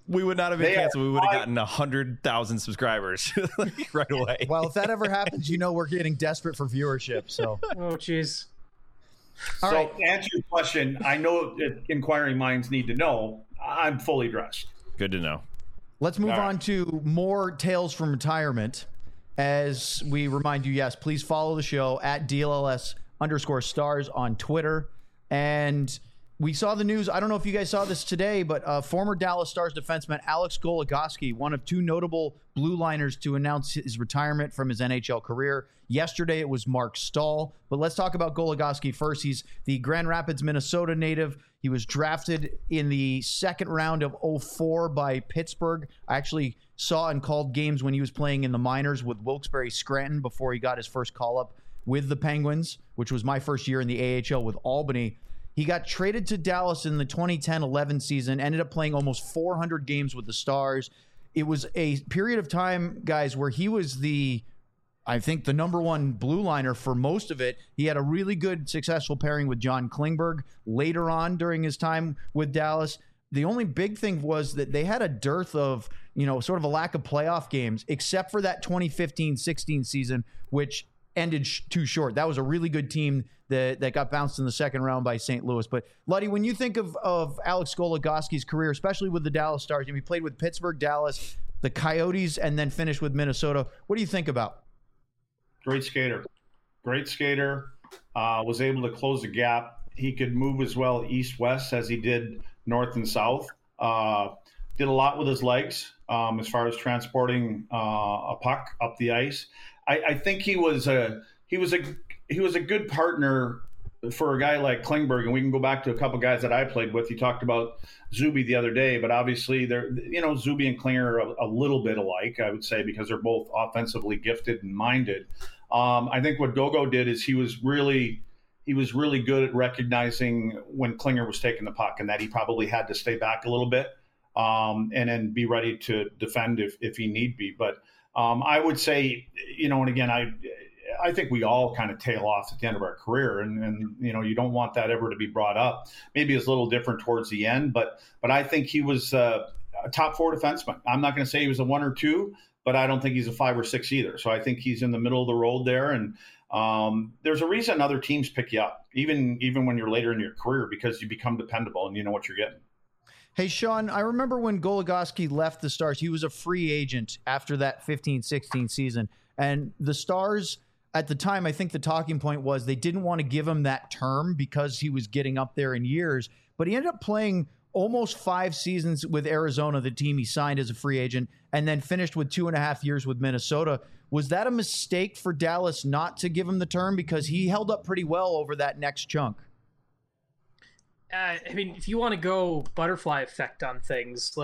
B: We would not have been canceled. We would have gotten 100,000 subscribers right away.
A: Well, if that ever happens, we're getting desperate for viewership. So,
C: oh, jeez.
D: So to answer your question, I know that inquiring minds need to know. I'm fully dressed.
B: Good to know.
A: Let's move on to more tales from retirement. As we remind you, yes, please follow the show at DLLS_stars on Twitter. And we saw the news. I don't know if you guys saw this today, but former Dallas Stars defenseman Alex Goligoski, one of two notable blue liners to announce his retirement from his NHL career. Yesterday, it was Mark Stahl. But let's talk about Goligoski first. He's the Grand Rapids, Minnesota native. He was drafted in the second round of 2004 by Pittsburgh. I actually saw and called games when he was playing in the minors with Wilkes-Barre Scranton before he got his first call-up with the Penguins, which was my first year in the AHL with Albany. He got traded to Dallas in the 2010-11 season, ended up playing almost 400 games with the Stars. It was a period of time, guys, where he was I think the number one blue liner for most of it. He had a really good, successful pairing with John Klingberg later on during his time with Dallas. The only big thing was that they had a dearth of, sort of a lack of playoff games, except for that 2015-16 season, which ended too short. That was a really good team that got bounced in the second round by St. Louis. But, Luddy, when you think of Alex Goligoski's career, especially with the Dallas Stars, he played with Pittsburgh, Dallas, the Coyotes, and then finished with Minnesota. What do you think about?
D: Great skater. Was able to close the gap. He could move as well east-west as he did north and south. Did a lot with his legs as far as transporting a puck up the ice. I think he was a good partner for a guy like Klingberg, and we can go back to a couple guys that I played with. You talked about Zuby the other day, but obviously Zuby and Klinger are a little bit alike, I would say, because they're both offensively gifted and minded. I think what Gogo did is he was really good at recognizing when Klinger was taking the puck and that he probably had to stay back a little bit and then be ready to defend if he need be. But I would say, and again, I think we all kind of tail off at the end of our career, and you don't want that ever to be brought up. Maybe it's a little different towards the end, but I think he was a top four defenseman. I'm not going to say he was a 1 or 2, but I don't think he's a 5 or 6 either. So I think he's in the middle of the road there, and there's a reason other teams pick you up, even when you're later in your career, because you become dependable and you know what you're getting.
A: Hey, Sean, I remember when Goligoski left the Stars, he was a free agent after that 15-16 season. And the Stars, at the time, I think the talking point was they didn't want to give him that term because he was getting up there in years. But he ended up playing almost 5 seasons with Arizona, the team he signed as a free agent, and then finished with 2.5 years with Minnesota. Was that a mistake for Dallas not to give him the term? Because he held up pretty well over that next chunk.
C: If you want to go butterfly effect on things,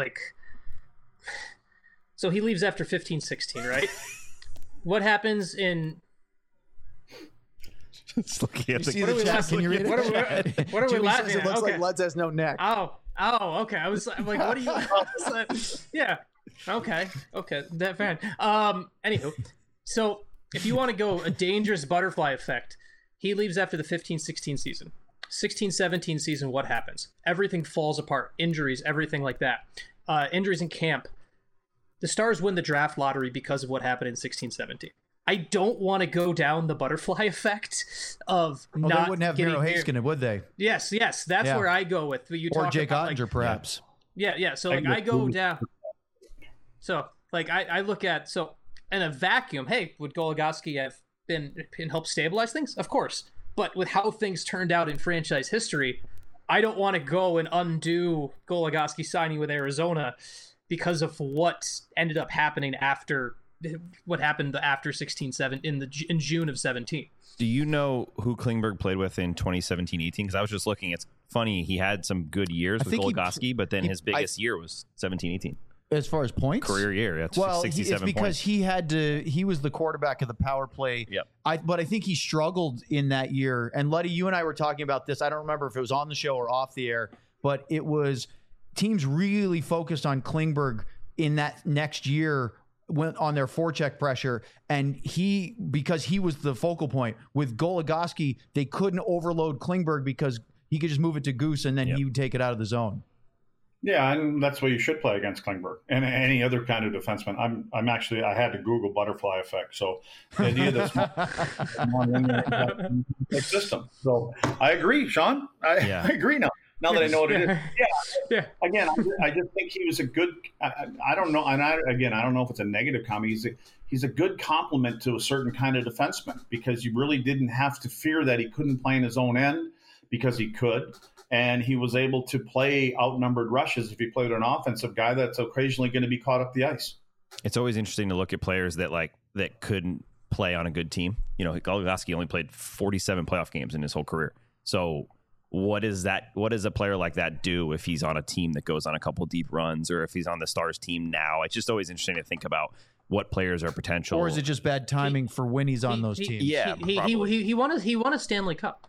C: so he leaves after 15-16, right? What happens in...
B: Just looking at
A: see the chat? Can you read it?
C: What are we laughing at?
A: It looks like Lutz has no neck.
C: Oh, okay. I was like, what are you... Yeah. Okay. That fine. Anywho, so if you want to go a dangerous butterfly effect, he leaves after the 15-16 season. 16-17 season, what happens? Everything falls apart. Injuries, everything like that. Injuries in camp. The Stars win the draft lottery because of what happened in 16-17. I don't want to go down the butterfly effect of not
A: they wouldn't have Miro Heiskanen, would they?
C: Yes. That's where I go with. You
A: or Jake Ottinger, perhaps.
C: Yeah. So I go down. So I look at, so in a vacuum, hey, would Goligoski have been helped stabilize things? Of course. But with how things turned out in franchise history, I don't want to go and undo Goligoski signing with Arizona because of what ended up happening after 16-17 in June of 17.
B: Do you know who Klingberg played with in 2017-18? Because I was just looking. It's funny. He had some good years with Goligoski, but then his biggest year was 17-18.
A: As far as points?
B: Career year, that's 67
A: it's because
B: points.
A: he was the quarterback of the power play.
B: Yep.
A: But I think he struggled in that year. And Luddy, you and I were talking about this. I don't remember if it was on the show or off the air, but it was teams really focused on Klingberg in that next year on their forecheck pressure. And because he was the focal point. With Goligoski, they couldn't overload Klingberg because he could just move it to Goose and then he would take it out of the zone.
D: Yeah, and that's why you should play against Klingberg and any other kind of defenseman. I'm actually, I had to Google butterfly effect. So the idea that system. So I agree, Sean. I agree now. Now that I know what it is. Yeah. Again, I just think he was a good. I don't know, and I don't know if it's a negative comment. He's a good complement to a certain kind of defenseman because you really didn't have to fear that he couldn't play in his own end because he could. And he was able to play outnumbered rushes if he played an offensive guy that's occasionally going to be caught up the ice.
B: It's always interesting to look at players that couldn't play on a good team. You know, Goligoski only played 47 playoff games in his whole career. So what does a player like that do if he's on a team that goes on a couple deep runs, or if he's on the Stars team now? It's just always interesting to think about what players are potential.
A: Or is it just bad timing for when he's on those teams?
B: Yeah,
C: he won a Stanley Cup.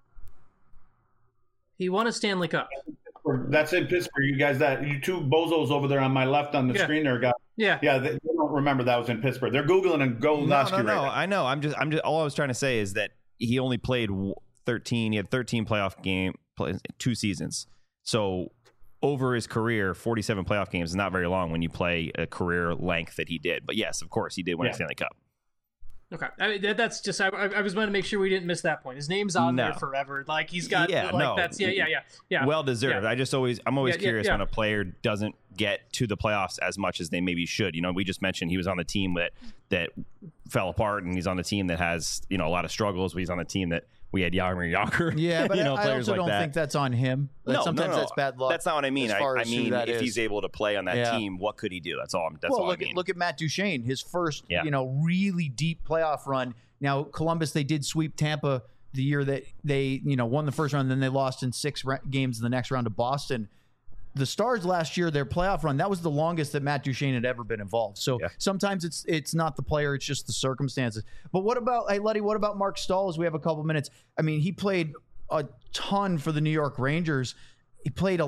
C: He won a Stanley Cup.
D: That's in Pittsburgh. You two bozos over there on my left on the screen there got. Yeah. They don't remember that was in Pittsburgh. They're Googling and Goligoski.
B: No. I know. I'm just. All I was trying to say is that he only played 13. He had 13 playoff game, 2 seasons. So over his career, 47 playoff games is not very long when you play a career length that he did. But yes, of course, he did win a Stanley Cup.
C: Okay, I mean, that's just I was going to make sure we didn't miss that point. His name's on there forever. Like he's got that's
B: well deserved. Yeah. I'm always curious when a player doesn't get to the playoffs as much as they maybe should. You know, we just mentioned he was on the team that fell apart, and he's on the team that has a lot of struggles. He's on the team that we had Jaromir Jagr.
A: Yeah, but I also don't think that's on him. Sometimes that's bad luck.
B: That's not what I mean. I mean, if he's able to play on that team, what could he do? That's all. I mean.
A: Look at Matt Duchene, his first, really deep playoff run. Now, Columbus, they did sweep Tampa the year that they, won the first round, then they lost in 6 games in the next round to Boston. The Stars last year, their playoff run, that was the longest that Matt Duchene had ever been involved. So sometimes it's not the player, it's just the circumstances. But what about Mark Stahl, as we have a couple minutes? I mean, he played a ton for the New York Rangers. He played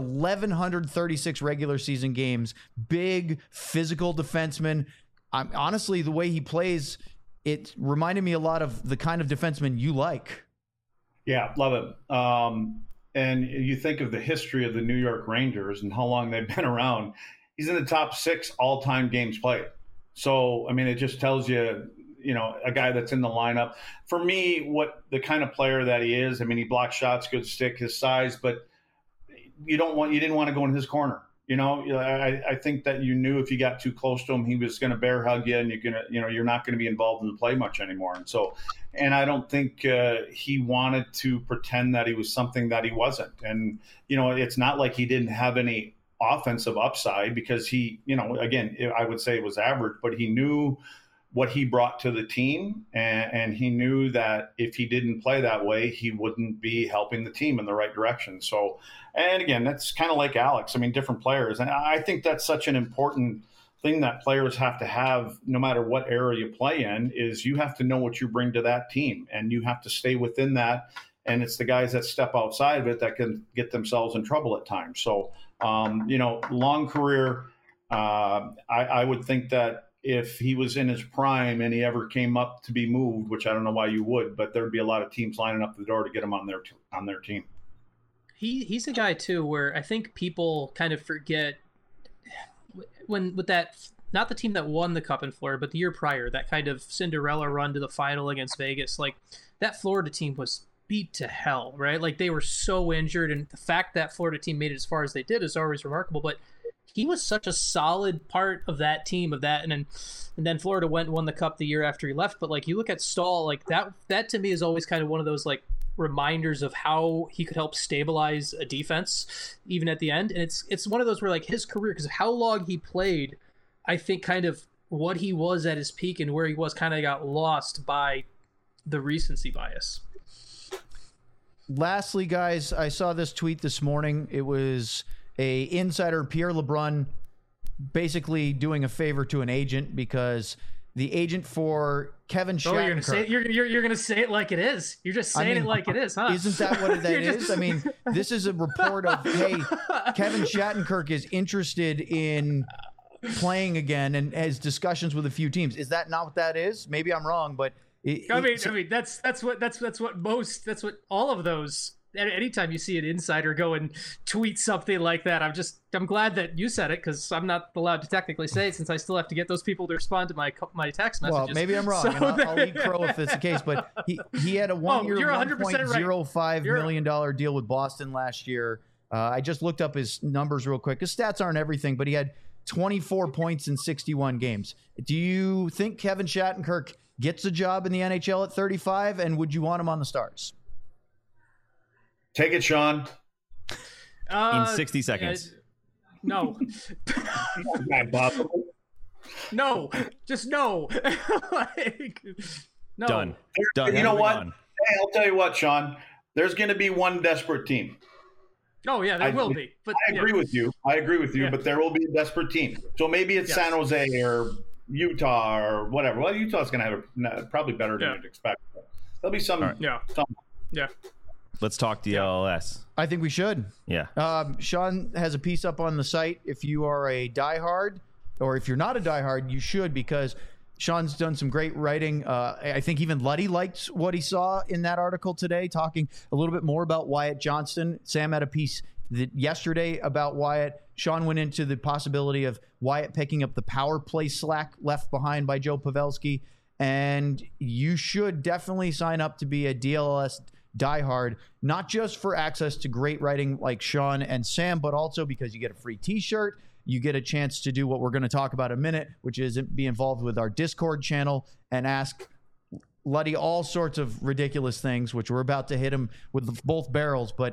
A: 1,136 regular season games. Big, physical defenseman. Honestly, the way he plays, it reminded me a lot of the kind of defenseman you like.
D: Yeah, love it. And you think of the history of the New York Rangers and how long they've been around. He's in the top 6 all-time games played. So, I mean, it just tells you, a guy that's in the lineup. For me, what the kind of player that he is, I mean, he blocks shots, good stick, his size, but you didn't want to go in his corner. I think that you knew if you got too close to him, he was going to bear hug you, and you're not going to be involved in the play much anymore. And I don't think he wanted to pretend that he was something that he wasn't. And it's not like he didn't have any offensive upside because he, again, I would say it was average, but he knew what he brought to the team, and he knew that if he didn't play that way, he wouldn't be helping the team in the right direction. So, and again, that's kind of like Alex. I mean, different players. And I think that's such an important thing that players have to have, no matter what era you play in, is you have to know what you bring to that team, and you have to stay within that. And it's the guys that step outside of it that can get themselves in trouble at times. So, long career, I would think that if he was in his prime and he ever came up to be moved, which I don't know why you would, but there'd be a lot of teams lining up the door to get him on their team.
C: He's a guy too where I think people kind of forget when with that, not the team that won the Cup in Florida, but the year prior, that kind of Cinderella run to the final against Vegas. Like that Florida team was beat to hell, right? Like they were so injured, and the fact that Florida team made it as far as they did is always remarkable. But he was such a solid part of that team, and then Florida went and won the Cup the year after he left. But like you look at Stahl, like that to me is always kind of one of those like reminders of how he could help stabilize a defense even at the end. And it's one of those where like his career, because of how long he played, I think kind of what he was at his peak and where he was kind of got lost by the recency bias.
A: Lastly, guys, I saw this tweet this morning. It was a insider, Pierre LeBrun, basically doing a favor to an agent because the agent for Kevin Shattenkirk.
C: You're gonna say it like it is. You're just saying it like it is, huh?
A: Isn't that what that is? I mean, this is a report of, hey, Kevin Shattenkirk is interested in playing again and has discussions with a few teams. Is that not what that is? Maybe I'm wrong, but
C: I mean that's what all of those anytime you see an insider go and tweet something like that, I'm glad that you said it, because I'm not allowed to technically say it, since I still have to get those people to respond to my text messages.
A: Well, maybe I'm wrong, and I'll eat crow if it's the case. But he had a 1 year, $1.05 million deal with Boston last year. I just looked up his numbers real quick. His stats aren't everything, but he had 24 points in 61 games. Do you think Kevin Shattenkirk gets a job in the NHL at 35, and would you want him on the Stars?
D: Take it, Sean.
B: In 60 seconds.
C: No. No. Just no. No.
B: Done.
D: You know what? Hey, I'll tell you what, Sean. There's going to be one desperate team.
C: Oh, yeah, there will be. But
D: I agree with you. But there will be a desperate team. So maybe it's San Jose or Utah or whatever. Well, Utah's going to have probably better than you'd expect. There'll be some.
B: Right.
C: Yeah.
B: Let's talk DLS.
A: I think we should.
B: Yeah.
A: Sean has a piece up on the site. If you are a diehard, or if you're not a diehard, you should, because Sean's done some great writing. I think even Luddy liked what he saw in that article today, talking a little bit more about Wyatt Johnston. Sam had a piece yesterday about Wyatt. Sean went into the possibility of Wyatt picking up the power play slack left behind by Joe Pavelski. And you should definitely sign up to be a DLS diehard, not just for access to great writing like Sean and Sam, but also because you get a free t-shirt. You get a chance to do what we're going to talk about in a minute, which is be involved with our Discord channel and ask Luddy all sorts of ridiculous things, which we're about to hit him with both barrels. But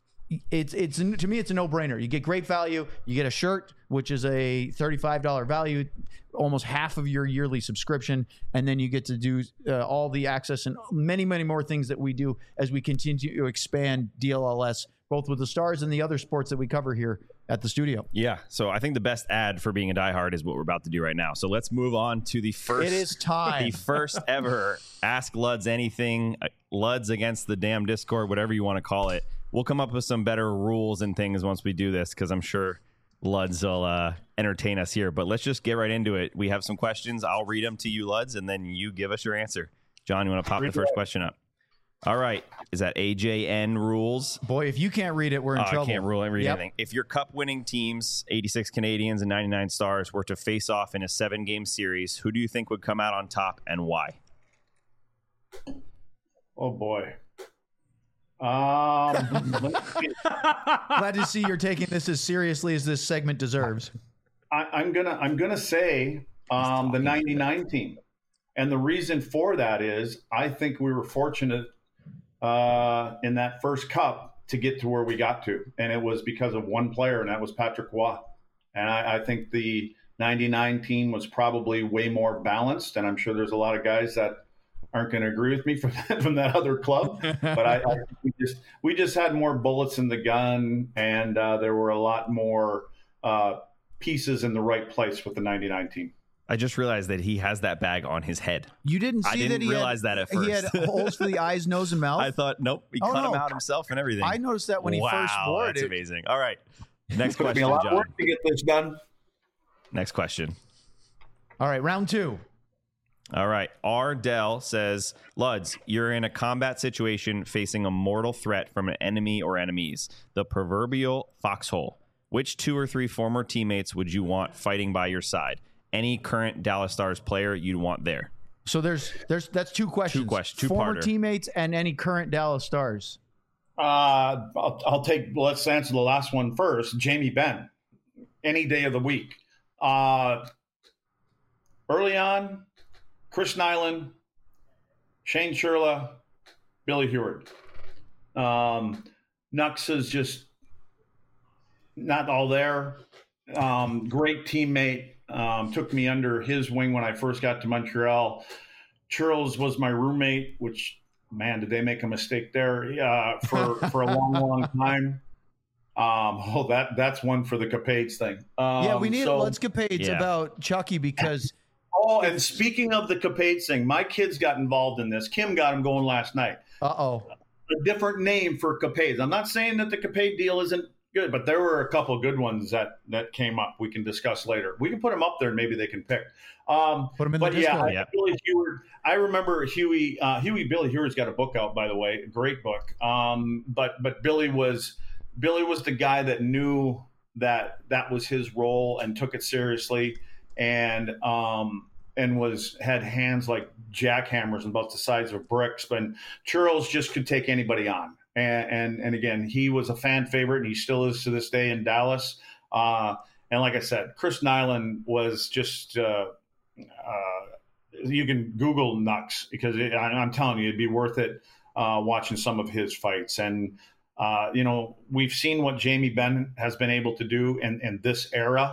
A: it's to me, it's a no-brainer. You get great value. You get a shirt, which is a $35 value, almost half of your yearly subscription, and then you get to do all the access and many, many more things that we do as we continue to expand DLLS, both with the Stars and the other sports that we cover here at the studio.
B: Yeah, so I think the best ad for being a diehard is what we're about to do right now. So let's move on to the first.
A: It is time.
B: The first ever Ask Luds Anything, Luds Against the Damn Discord, whatever you want to call it. We'll come up with some better rules and things once we do this, because I'm sure Luds will entertain us here. But let's just get right into it. We have some questions. I'll read them to you, Luds, and then you give us your answer. John, you want to pop the first question up? All right. Is that AJN rules?
A: Boy, if you can't read it, we're in trouble.
B: I can't read anything. If your cup-winning teams, 86 Canadiens and 99 Stars, were to face off in a 7-game series, who do you think would come out on top and why?
D: Oh, boy.
A: Glad to see you're taking this as seriously as this segment deserves.
D: I'm gonna say the 99 team, and the reason for that is I think we were fortunate in that first cup to get to where we got to, and it was because of one player, and that was Patrick Roy. And I think the 99 team was probably way more balanced, and I'm sure there's a lot of guys that aren't going to agree with me from that other club, but I we just had more bullets in the gun, and there were a lot more pieces in the right place with the 99 team.
B: I just realized that he has that bag on his head.
A: You didn't see that? I
B: didn't realize that at first.
A: He had holes for the eyes, nose, and mouth.
B: I thought, nope, he cut them out himself and everything.
A: I noticed that when he first wore it.
B: That's amazing. All right, next question,
D: be a lot
B: John.
D: of work to get this done.
B: Next question.
A: All right, round 2.
B: All right. Ardell says, Luds, you're in a combat situation facing a mortal threat from an enemy or enemies, the proverbial foxhole. Which 2 or 3 former teammates would you want fighting by your side? Any current Dallas Stars player you'd want there?
A: So that's 2 questions.
B: 2 questions.
A: Former teammates and any current Dallas Stars.
D: I'll take. Let's answer the last one first. Jamie Benn, any day of the week. Early on, Chris Nyland, Shane Sherla, Billy Heward. Nux is just not all there. Great teammate. Took me under his wing when I first got to Montreal. Charles was my roommate, which, man, did they make a mistake there for a long, long time. That's one for the Capades thing.
A: We need Let's Capades about Chucky because –
D: Oh, and speaking of the Capades thing, my kids got involved in this. Kim got them going last night.
A: Uh-oh.
D: A different name for Capades. I'm not saying that the Capade deal isn't good. But there were a couple of good ones that came up. We can discuss later. We can put them up there and maybe they can pick.
A: Put them in the Discord.
D: Billy Heward. I remember Huey. Billy Heward's got a book out, by the way, a great book. But Billy was the guy that knew that was his role and took it seriously, and had hands like jackhammers and about the size of bricks. But Churls just could take anybody on. And again, he was a fan favorite, and he still is to this day in Dallas. And like I said, Chris Nyland was just you can Google Nux, because I'm telling you, it'd be worth it watching some of his fights. And we've seen what Jamie Benn has been able to do in this era.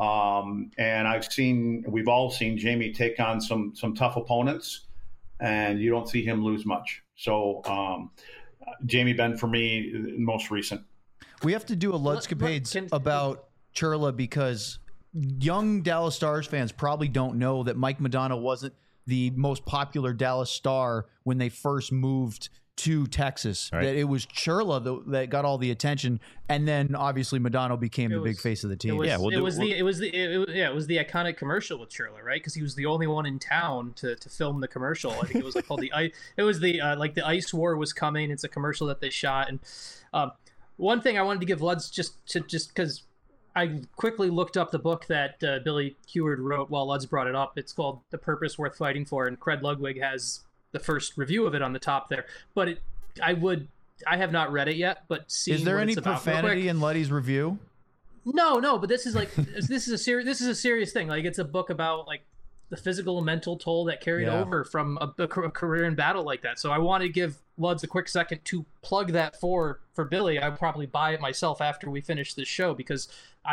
D: And we've all seen Jamie take on some tough opponents, and you don't see him lose much. So Jamie Benn for me, most recent.
A: We have to do a Ludscapades about Churla, because young Dallas Stars fans probably don't know that Mike Modano wasn't the most popular Dallas Star when they first moved to Texas. Right. That it was Churla that got all the attention, and then obviously Modano became the big face of the team.
C: It was the iconic commercial with Churla, right? Because he was the only one in town to film the commercial. I think it was called the Ice War was coming. It's a commercial that they shot. And one thing I wanted to give Luds just because I quickly looked up the book that Billy Heward wrote while Luds brought it up. It's called The Purpose Worth Fighting For, and Cred Ludwig has the first review of it on the top there. But I have not read it yet, but
A: is there any profanity in Luddy's review?
C: No, but this is a serious thing. Like, it's a book about like the physical and mental toll that carried over from a career in battle like that. So I want to give Luds a quick second to plug that for Billy. I'll probably buy it myself after we finish this show, because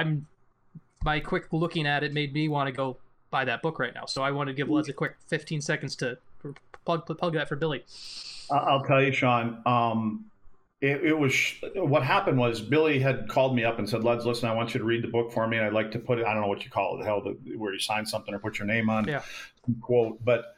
C: my quick looking at it made me want to go buy that book right now. So I want to give Luds a quick 15 seconds to plug that for Billy.
D: I'll tell you, Sean. It was what happened was Billy had called me up and said, "Luds, listen, I want you to read the book for me, and I'd like to put it. I don't know what you call it, where you sign something or put your name on." Yeah. Quote, but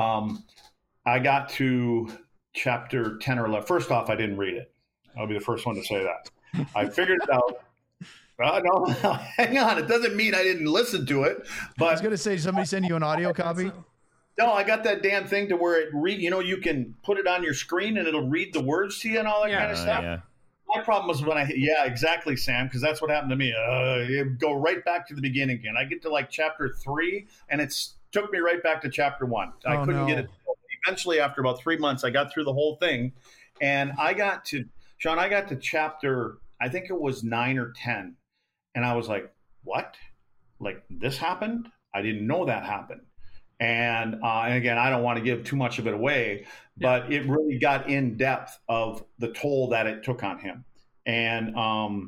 D: I got to chapter 10 or 11. First off, I didn't read it. I'll be the first one to say that. I figured it out. No, hang on. It doesn't mean I didn't listen to it. But
A: I was going to say, did somebody send you an audio copy?
D: No, I got that damn thing to where it you can put it on your screen and it'll read the words to you and all that kind of stuff. Yeah. My problem was when exactly, Sam, because that's what happened to me. It go right back to the beginning again. I get to like chapter 3 and it took me right back to chapter 1. I couldn't get it. Eventually, after about 3 months, I got through the whole thing, and I got to chapter, I think it was 9 or 10. And I was like, what? Like, this happened? I didn't know that happened. And again, I don't want to give too much of it away, but it really got in depth of the toll that it took on him. And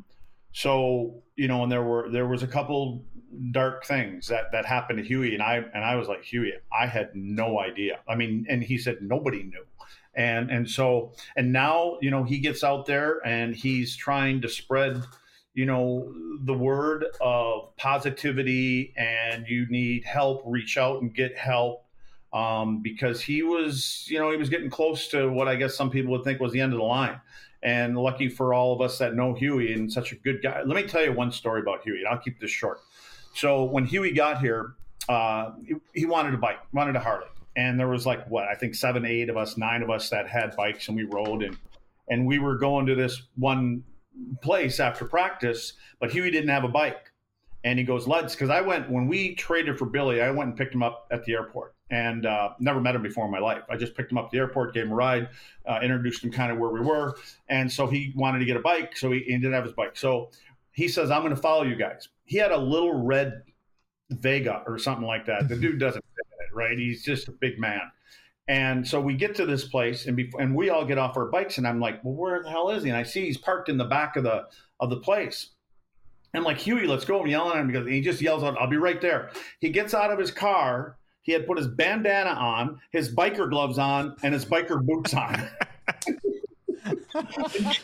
D: so, and there was a couple dark things that happened to Huey. And I was like, Huey, I had no idea. I mean, and he said nobody knew. And so now, he gets out there and he's trying to spread the word of positivity, and you need help, reach out and get help, because he was getting close to what I guess some people would think was the end of the line. And lucky for all of us that know Huey and such a good guy. Let me tell you one story about Huey, and I'll keep this short. So when Huey got here, he wanted a bike, wanted a Harley. And there was I think 7, 8 of us, 9 of us that had bikes, and we rode, and we were going to this one place after practice, but Huey didn't have a bike. And he goes, Luds, because when we traded for Billy, I went and picked him up at the airport, and never met him before in my life. I just picked him up at the airport, gave him a ride, introduced him kind of where we were. And so he wanted to get a bike, so he didn't have his bike. So he says, I'm going to follow you guys. He had a little red Vega or something like that. The dude doesn't fit in it, right? He's just a big man. And so we get to this place, and we all get off our bikes, and I'm like, well, where the hell is he? And I see he's parked in the back of the place. I'm like, Huey, let's go. I'm yelling at him because he just yells out, I'll be right there. He gets out of his car. He had put his bandana on, his biker gloves on, and his biker boots on.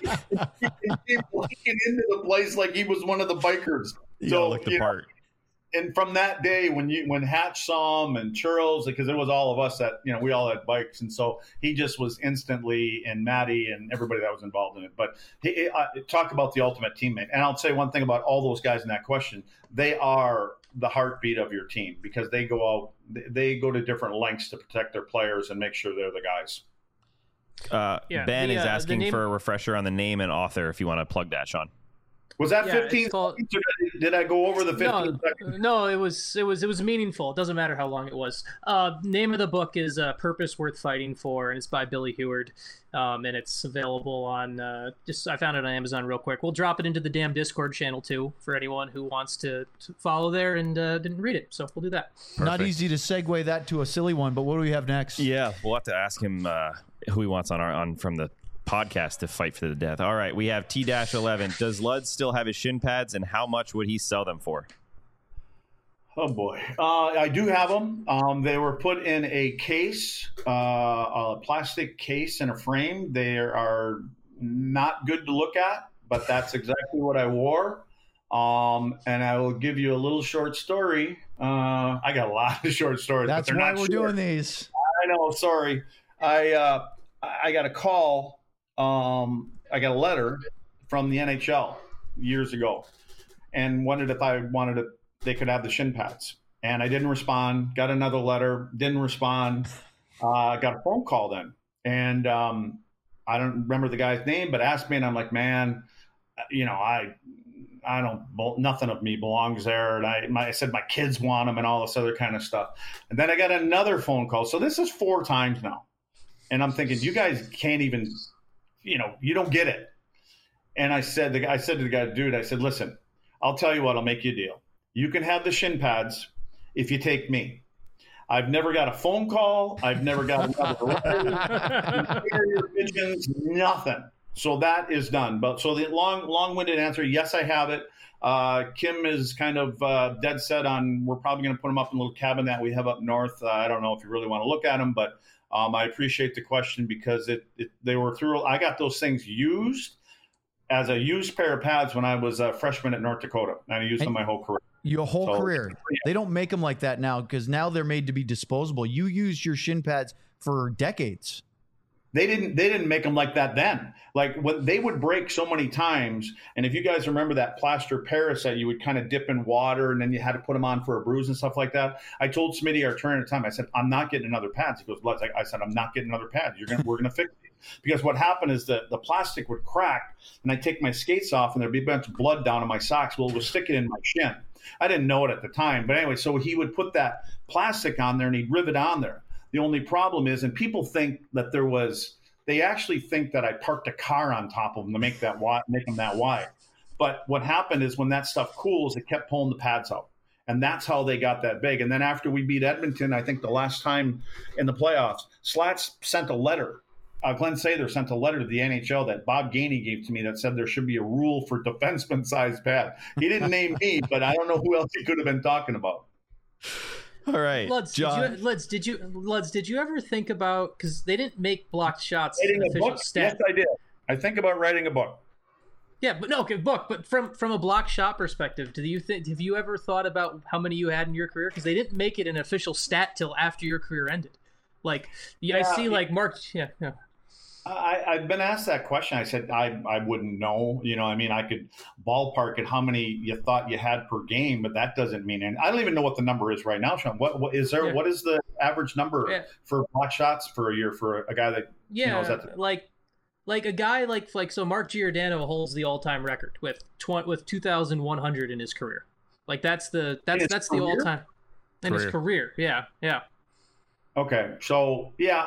D: He came walking into the place like he was one of the bikers.
B: You gotta look the part.
D: and from that day when Hatch saw him and Churls, because it was all of us that, we all had bikes, and so he just was instantly, and Matty and everybody that was involved in it. But talk about the ultimate teammate. And I'll say one thing about all those guys in that question: they are the heartbeat of your team, because they go to different lengths to protect their players and make sure they're the guys.
B: Ben is asking for a refresher on the name and author, if you want to plug that, Sean.
D: Was that 15 seconds? Did I go over the 15 seconds?
C: No, it was meaningful. It doesn't matter how long it was. Name of the book is Purpose Worth Fighting For, and it's by Billy Heward. And it's available on I found it on Amazon real quick. We'll drop it into the damn Discord channel too for anyone who wants to follow there and didn't read it. So we'll do that.
A: Perfect. Not easy to segue that to a silly one, but what do we have next?
B: Yeah, we'll have to ask him who he wants on from the podcast to fight for the death. All right, we have T-11. Does Luds still have his shin pads, and how much would he sell them for?
D: Oh boy, I do have them. They were put in a case, a plastic case in a frame. They are not good to look at, but that's exactly what I wore. And I will give you a little short story. I got a lot of short stories.
A: That's
D: but
A: why we're doing these.
D: I know. Sorry. I got a call. I got a letter from the NHL years ago, and wondered if they could have the shin pads. And I didn't respond. Got another letter. Didn't respond. Got a phone call then, and I don't remember the guy's name, but asked me, and I'm like, man, I don't. Nothing of me belongs there. And I said my kids want them and all this other kind of stuff. And then I got another phone call. So this is 4 times now. And I'm thinking, you guys can't even, you don't get it. And I said to the guy, dude, I said, listen, I'll tell you what, I'll make you a deal. You can have the shin pads if you take me. I've never got a phone call. I've never got another pigeons, nothing. So that is done. But so the long-winded answer, yes, I have it. Kim is kind of dead set on, we're probably going to put them up in a little cabin that we have up north. I don't know if you really want to look at them, but I appreciate the question, because they were through. I got those things used as a used pair of pads when I was a freshman at North Dakota, and I used them my whole career.
A: Your whole career. Yeah. They don't make them like that now, because now they're made to be disposable. You used your shin pads for decades.
D: They didn't make them like that then. Like, what they would break so many times. And if you guys remember that plaster Paris that you would kind of dip in water and then you had to put them on for a bruise and stuff like that. I told Smitty, our trainer at the time, I said, I'm not getting another pads. He goes, Luds. I said, I'm not getting another pad. We're gonna fix it. Because what happened is that the plastic would crack, and I'd take my skates off and there'd be a bunch of blood down on my socks. Well, it was sticking in my shin. I didn't know it at the time. But anyway, so he would put that plastic on there and he'd rivet on there. The only problem is, and people think that they actually think that I parked a car on top of them to make them that wide. But what happened is, when that stuff cools, it kept pulling the pads out. And that's how they got that big. And then after we beat Edmonton, I think the last time in the playoffs, Slats sent a letter. Glenn Sather sent a letter to the NHL that Bob Gainey gave to me that said there should be a rule for defenseman-sized pad. He didn't name me, but I don't know who else he could have been talking about.
B: All right,
C: Luds,
B: John.
C: Did you ever think about, because they didn't make blocked shots
D: writing
C: an
D: a
C: official
D: book?
C: stat?
D: Yes, I did. I think about writing a book.
C: Yeah, but no, okay, book. But from a blocked shot perspective, have you ever thought about how many you had in your career? Because they didn't make it an official stat till after your career ended. Like, I see, like Mark. Yeah.
D: I've been asked that question. I said I wouldn't know. I could ballpark at how many you thought you had per game, but that doesn't mean anything. I don't even know what the number is right now, Sean. What is there? Yeah. What is the average number for block shots for a year for a guy that?
C: Like a guy like so Mark Giordano holds the all-time record with 2,100 in his career. Like that's the all-time in his career. Yeah.
D: Okay, so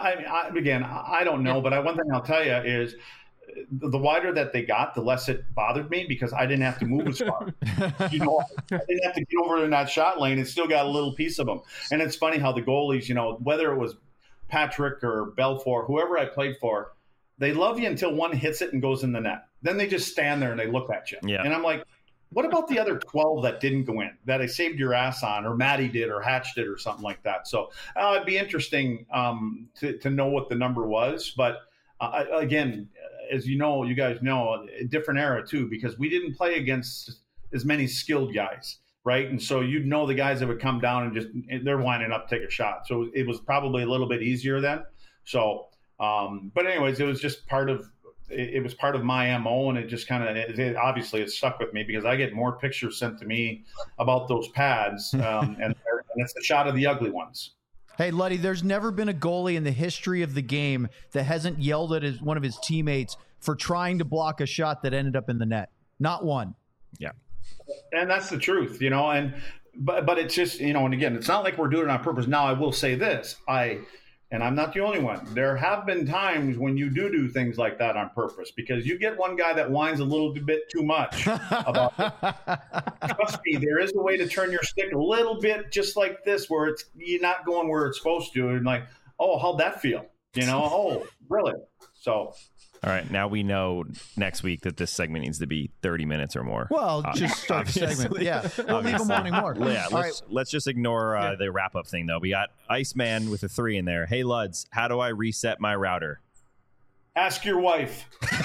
D: I don't know, but one thing I'll tell you is the wider that they got, the less it bothered me, because I didn't have to move as far. I didn't have to get over in that shot lane. It still got a little piece of them. And it's funny how the goalies, whether it was Patrick or Belfour, whoever I played for, they love you until one hits it and goes in the net. Then they just stand there and they look at you.
B: Yeah.
D: And I'm like, what about the other 12 that didn't go in, that I saved your ass on, or Matty did, or Hatch did, or something like that? So it'd be interesting to know what the number was. But again, as you guys know, a different era too, because we didn't play against as many skilled guys. right? And so you'd know the guys that would come down and they're winding up to take a shot. So it was probably a little bit easier then. So, but anyways, it was just part of my MO, and it just kind of obviously it stuck with me because I get more pictures sent to me about those pads, and it's the shot of the ugly ones.
A: Hey, Luddy, there's never been a goalie in the history of the game that hasn't yelled at one of his teammates for trying to block a shot that ended up in the net. Not one.
B: Yeah.
D: And that's the truth, but it's just, and again, it's not like we're doing it on purpose. Now, I will say this, and I'm not the only one. There have been times when you do things like that on purpose because you get one guy that whines a little bit too much about it. Trust me, there is a way to turn your stick a little bit just like this where you're not going where it's supposed to. And like, oh, how'd that feel? Oh, really? So.
B: All right, now we know next week that this segment needs to be 30 minutes or more.
A: Well, just start the segment. Yeah, we'll leave them wanting more.
B: Yeah, let's just ignore the wrap-up thing, though. We got Iceman with a 3 in there. Hey, Luds, how do I reset my router?
D: Ask your wife.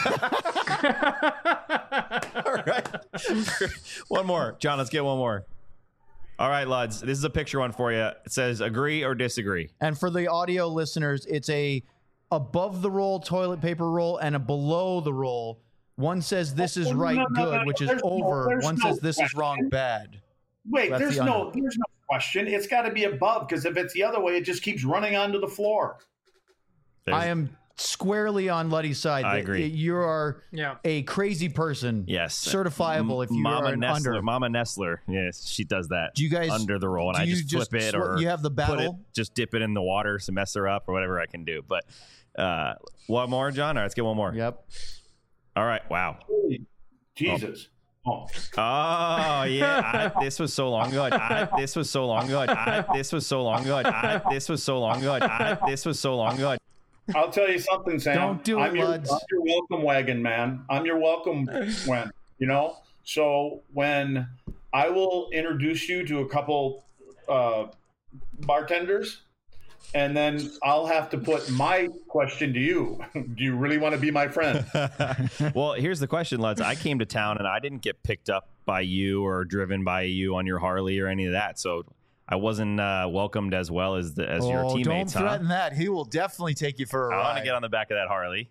B: All right. One more. John, let's get one more. All right, Luds, this is a picture one for you. It says agree or disagree.
A: And for the audio listeners, it's a above the roll toilet paper roll and a below the roll. One says this is right, good, which is over. One says this is wrong, bad.
D: Wait, there's no question. It's got to be above because if it's the other way, it just keeps running onto the floor.
A: I am squarely on Luddy's side.
B: I agree.
A: You are a crazy person.
B: Yes.
A: Certifiable if you are an under.
B: Mama Nestler. Yes, she does that.
A: Do you guys
B: under the roll, and I just flip it or
A: you have the battle?
B: Just dip it in the water to mess her up or whatever I can do. But one more, John? All right, let's get one more.
A: Yep.
B: All right. Wow.
D: Jesus.
B: Oh yeah. This was so long ago. This was so long ago. This was so long ago. This was so long ago. This was so long ago.
D: I'll tell you something, Sam.
A: Don't do it,
D: I'm your welcome wagon, man. I'm your welcome when, So when I will introduce you to a couple bartenders, and then I'll have to put my question to you. Do you really want to be my friend?
B: Well, here's the question, Luds. I came to town, and I didn't get picked up by you or driven by you on your Harley or any of that, so I wasn't welcomed as well as your teammates.
A: Don't threaten that. He will definitely take you for a ride.
B: I want to get on the back of that Harley.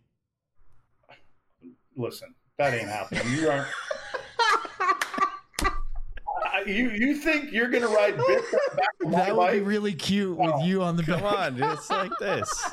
D: Listen, that ain't happening. You aren't. You think you're going to ride bits on the back of my
A: That would
D: bike?
A: be really cute with you on the back.
B: Come on, it's like this.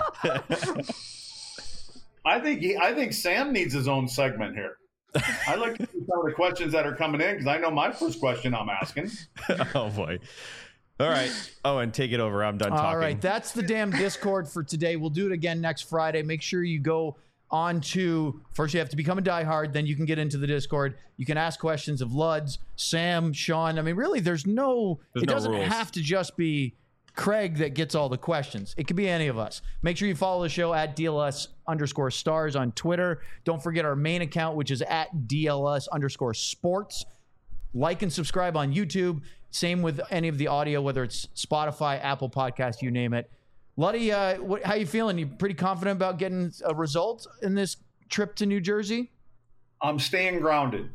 D: I think Sam needs his own segment here. I like to see some of the questions that are coming in because I know my first question I'm asking.
B: Oh, boy. All right. Oh, and take it over. I'm done talking.
A: All right. That's the damn Discord for today. We'll do it again next Friday. Make sure you go on to, first you have to become a diehard, then you can get into the Discord. You can ask questions of Luds, Sam, Sean. I mean, really, it doesn't
B: rules.
A: have to just be Craig that gets all the questions. It could be any of us. Make sure you follow the show at DLS_stars on Twitter. Don't forget our main account, which is at DLS_sports. Like and subscribe on YouTube. Same with any of the audio, whether it's Spotify, Apple Podcast, you name it. Luddy, how you feeling? You pretty confident about getting a result in this trip to New Jersey?
D: I'm staying grounded.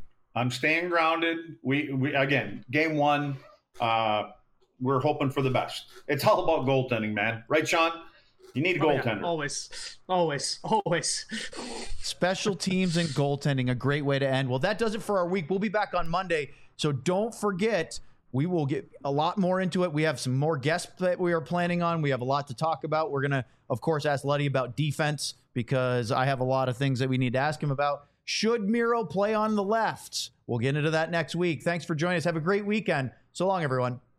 D: We again, game one, we're hoping for the best. It's all about goaltending, man. Right, Sean? You need a goaltender.
C: Yeah. Always.
A: Special teams and goaltending, a great way to end. Well, that does it for our week. We'll be back on Monday. So don't forget, we will get a lot more into it. We have some more guests that we are planning on. We have a lot to talk about. We're going to, of course, ask Luddy about defense because I have a lot of things that we need to ask him about. Should Miro play on the left? We'll get into that next week. Thanks for joining us. Have a great weekend. So long, everyone.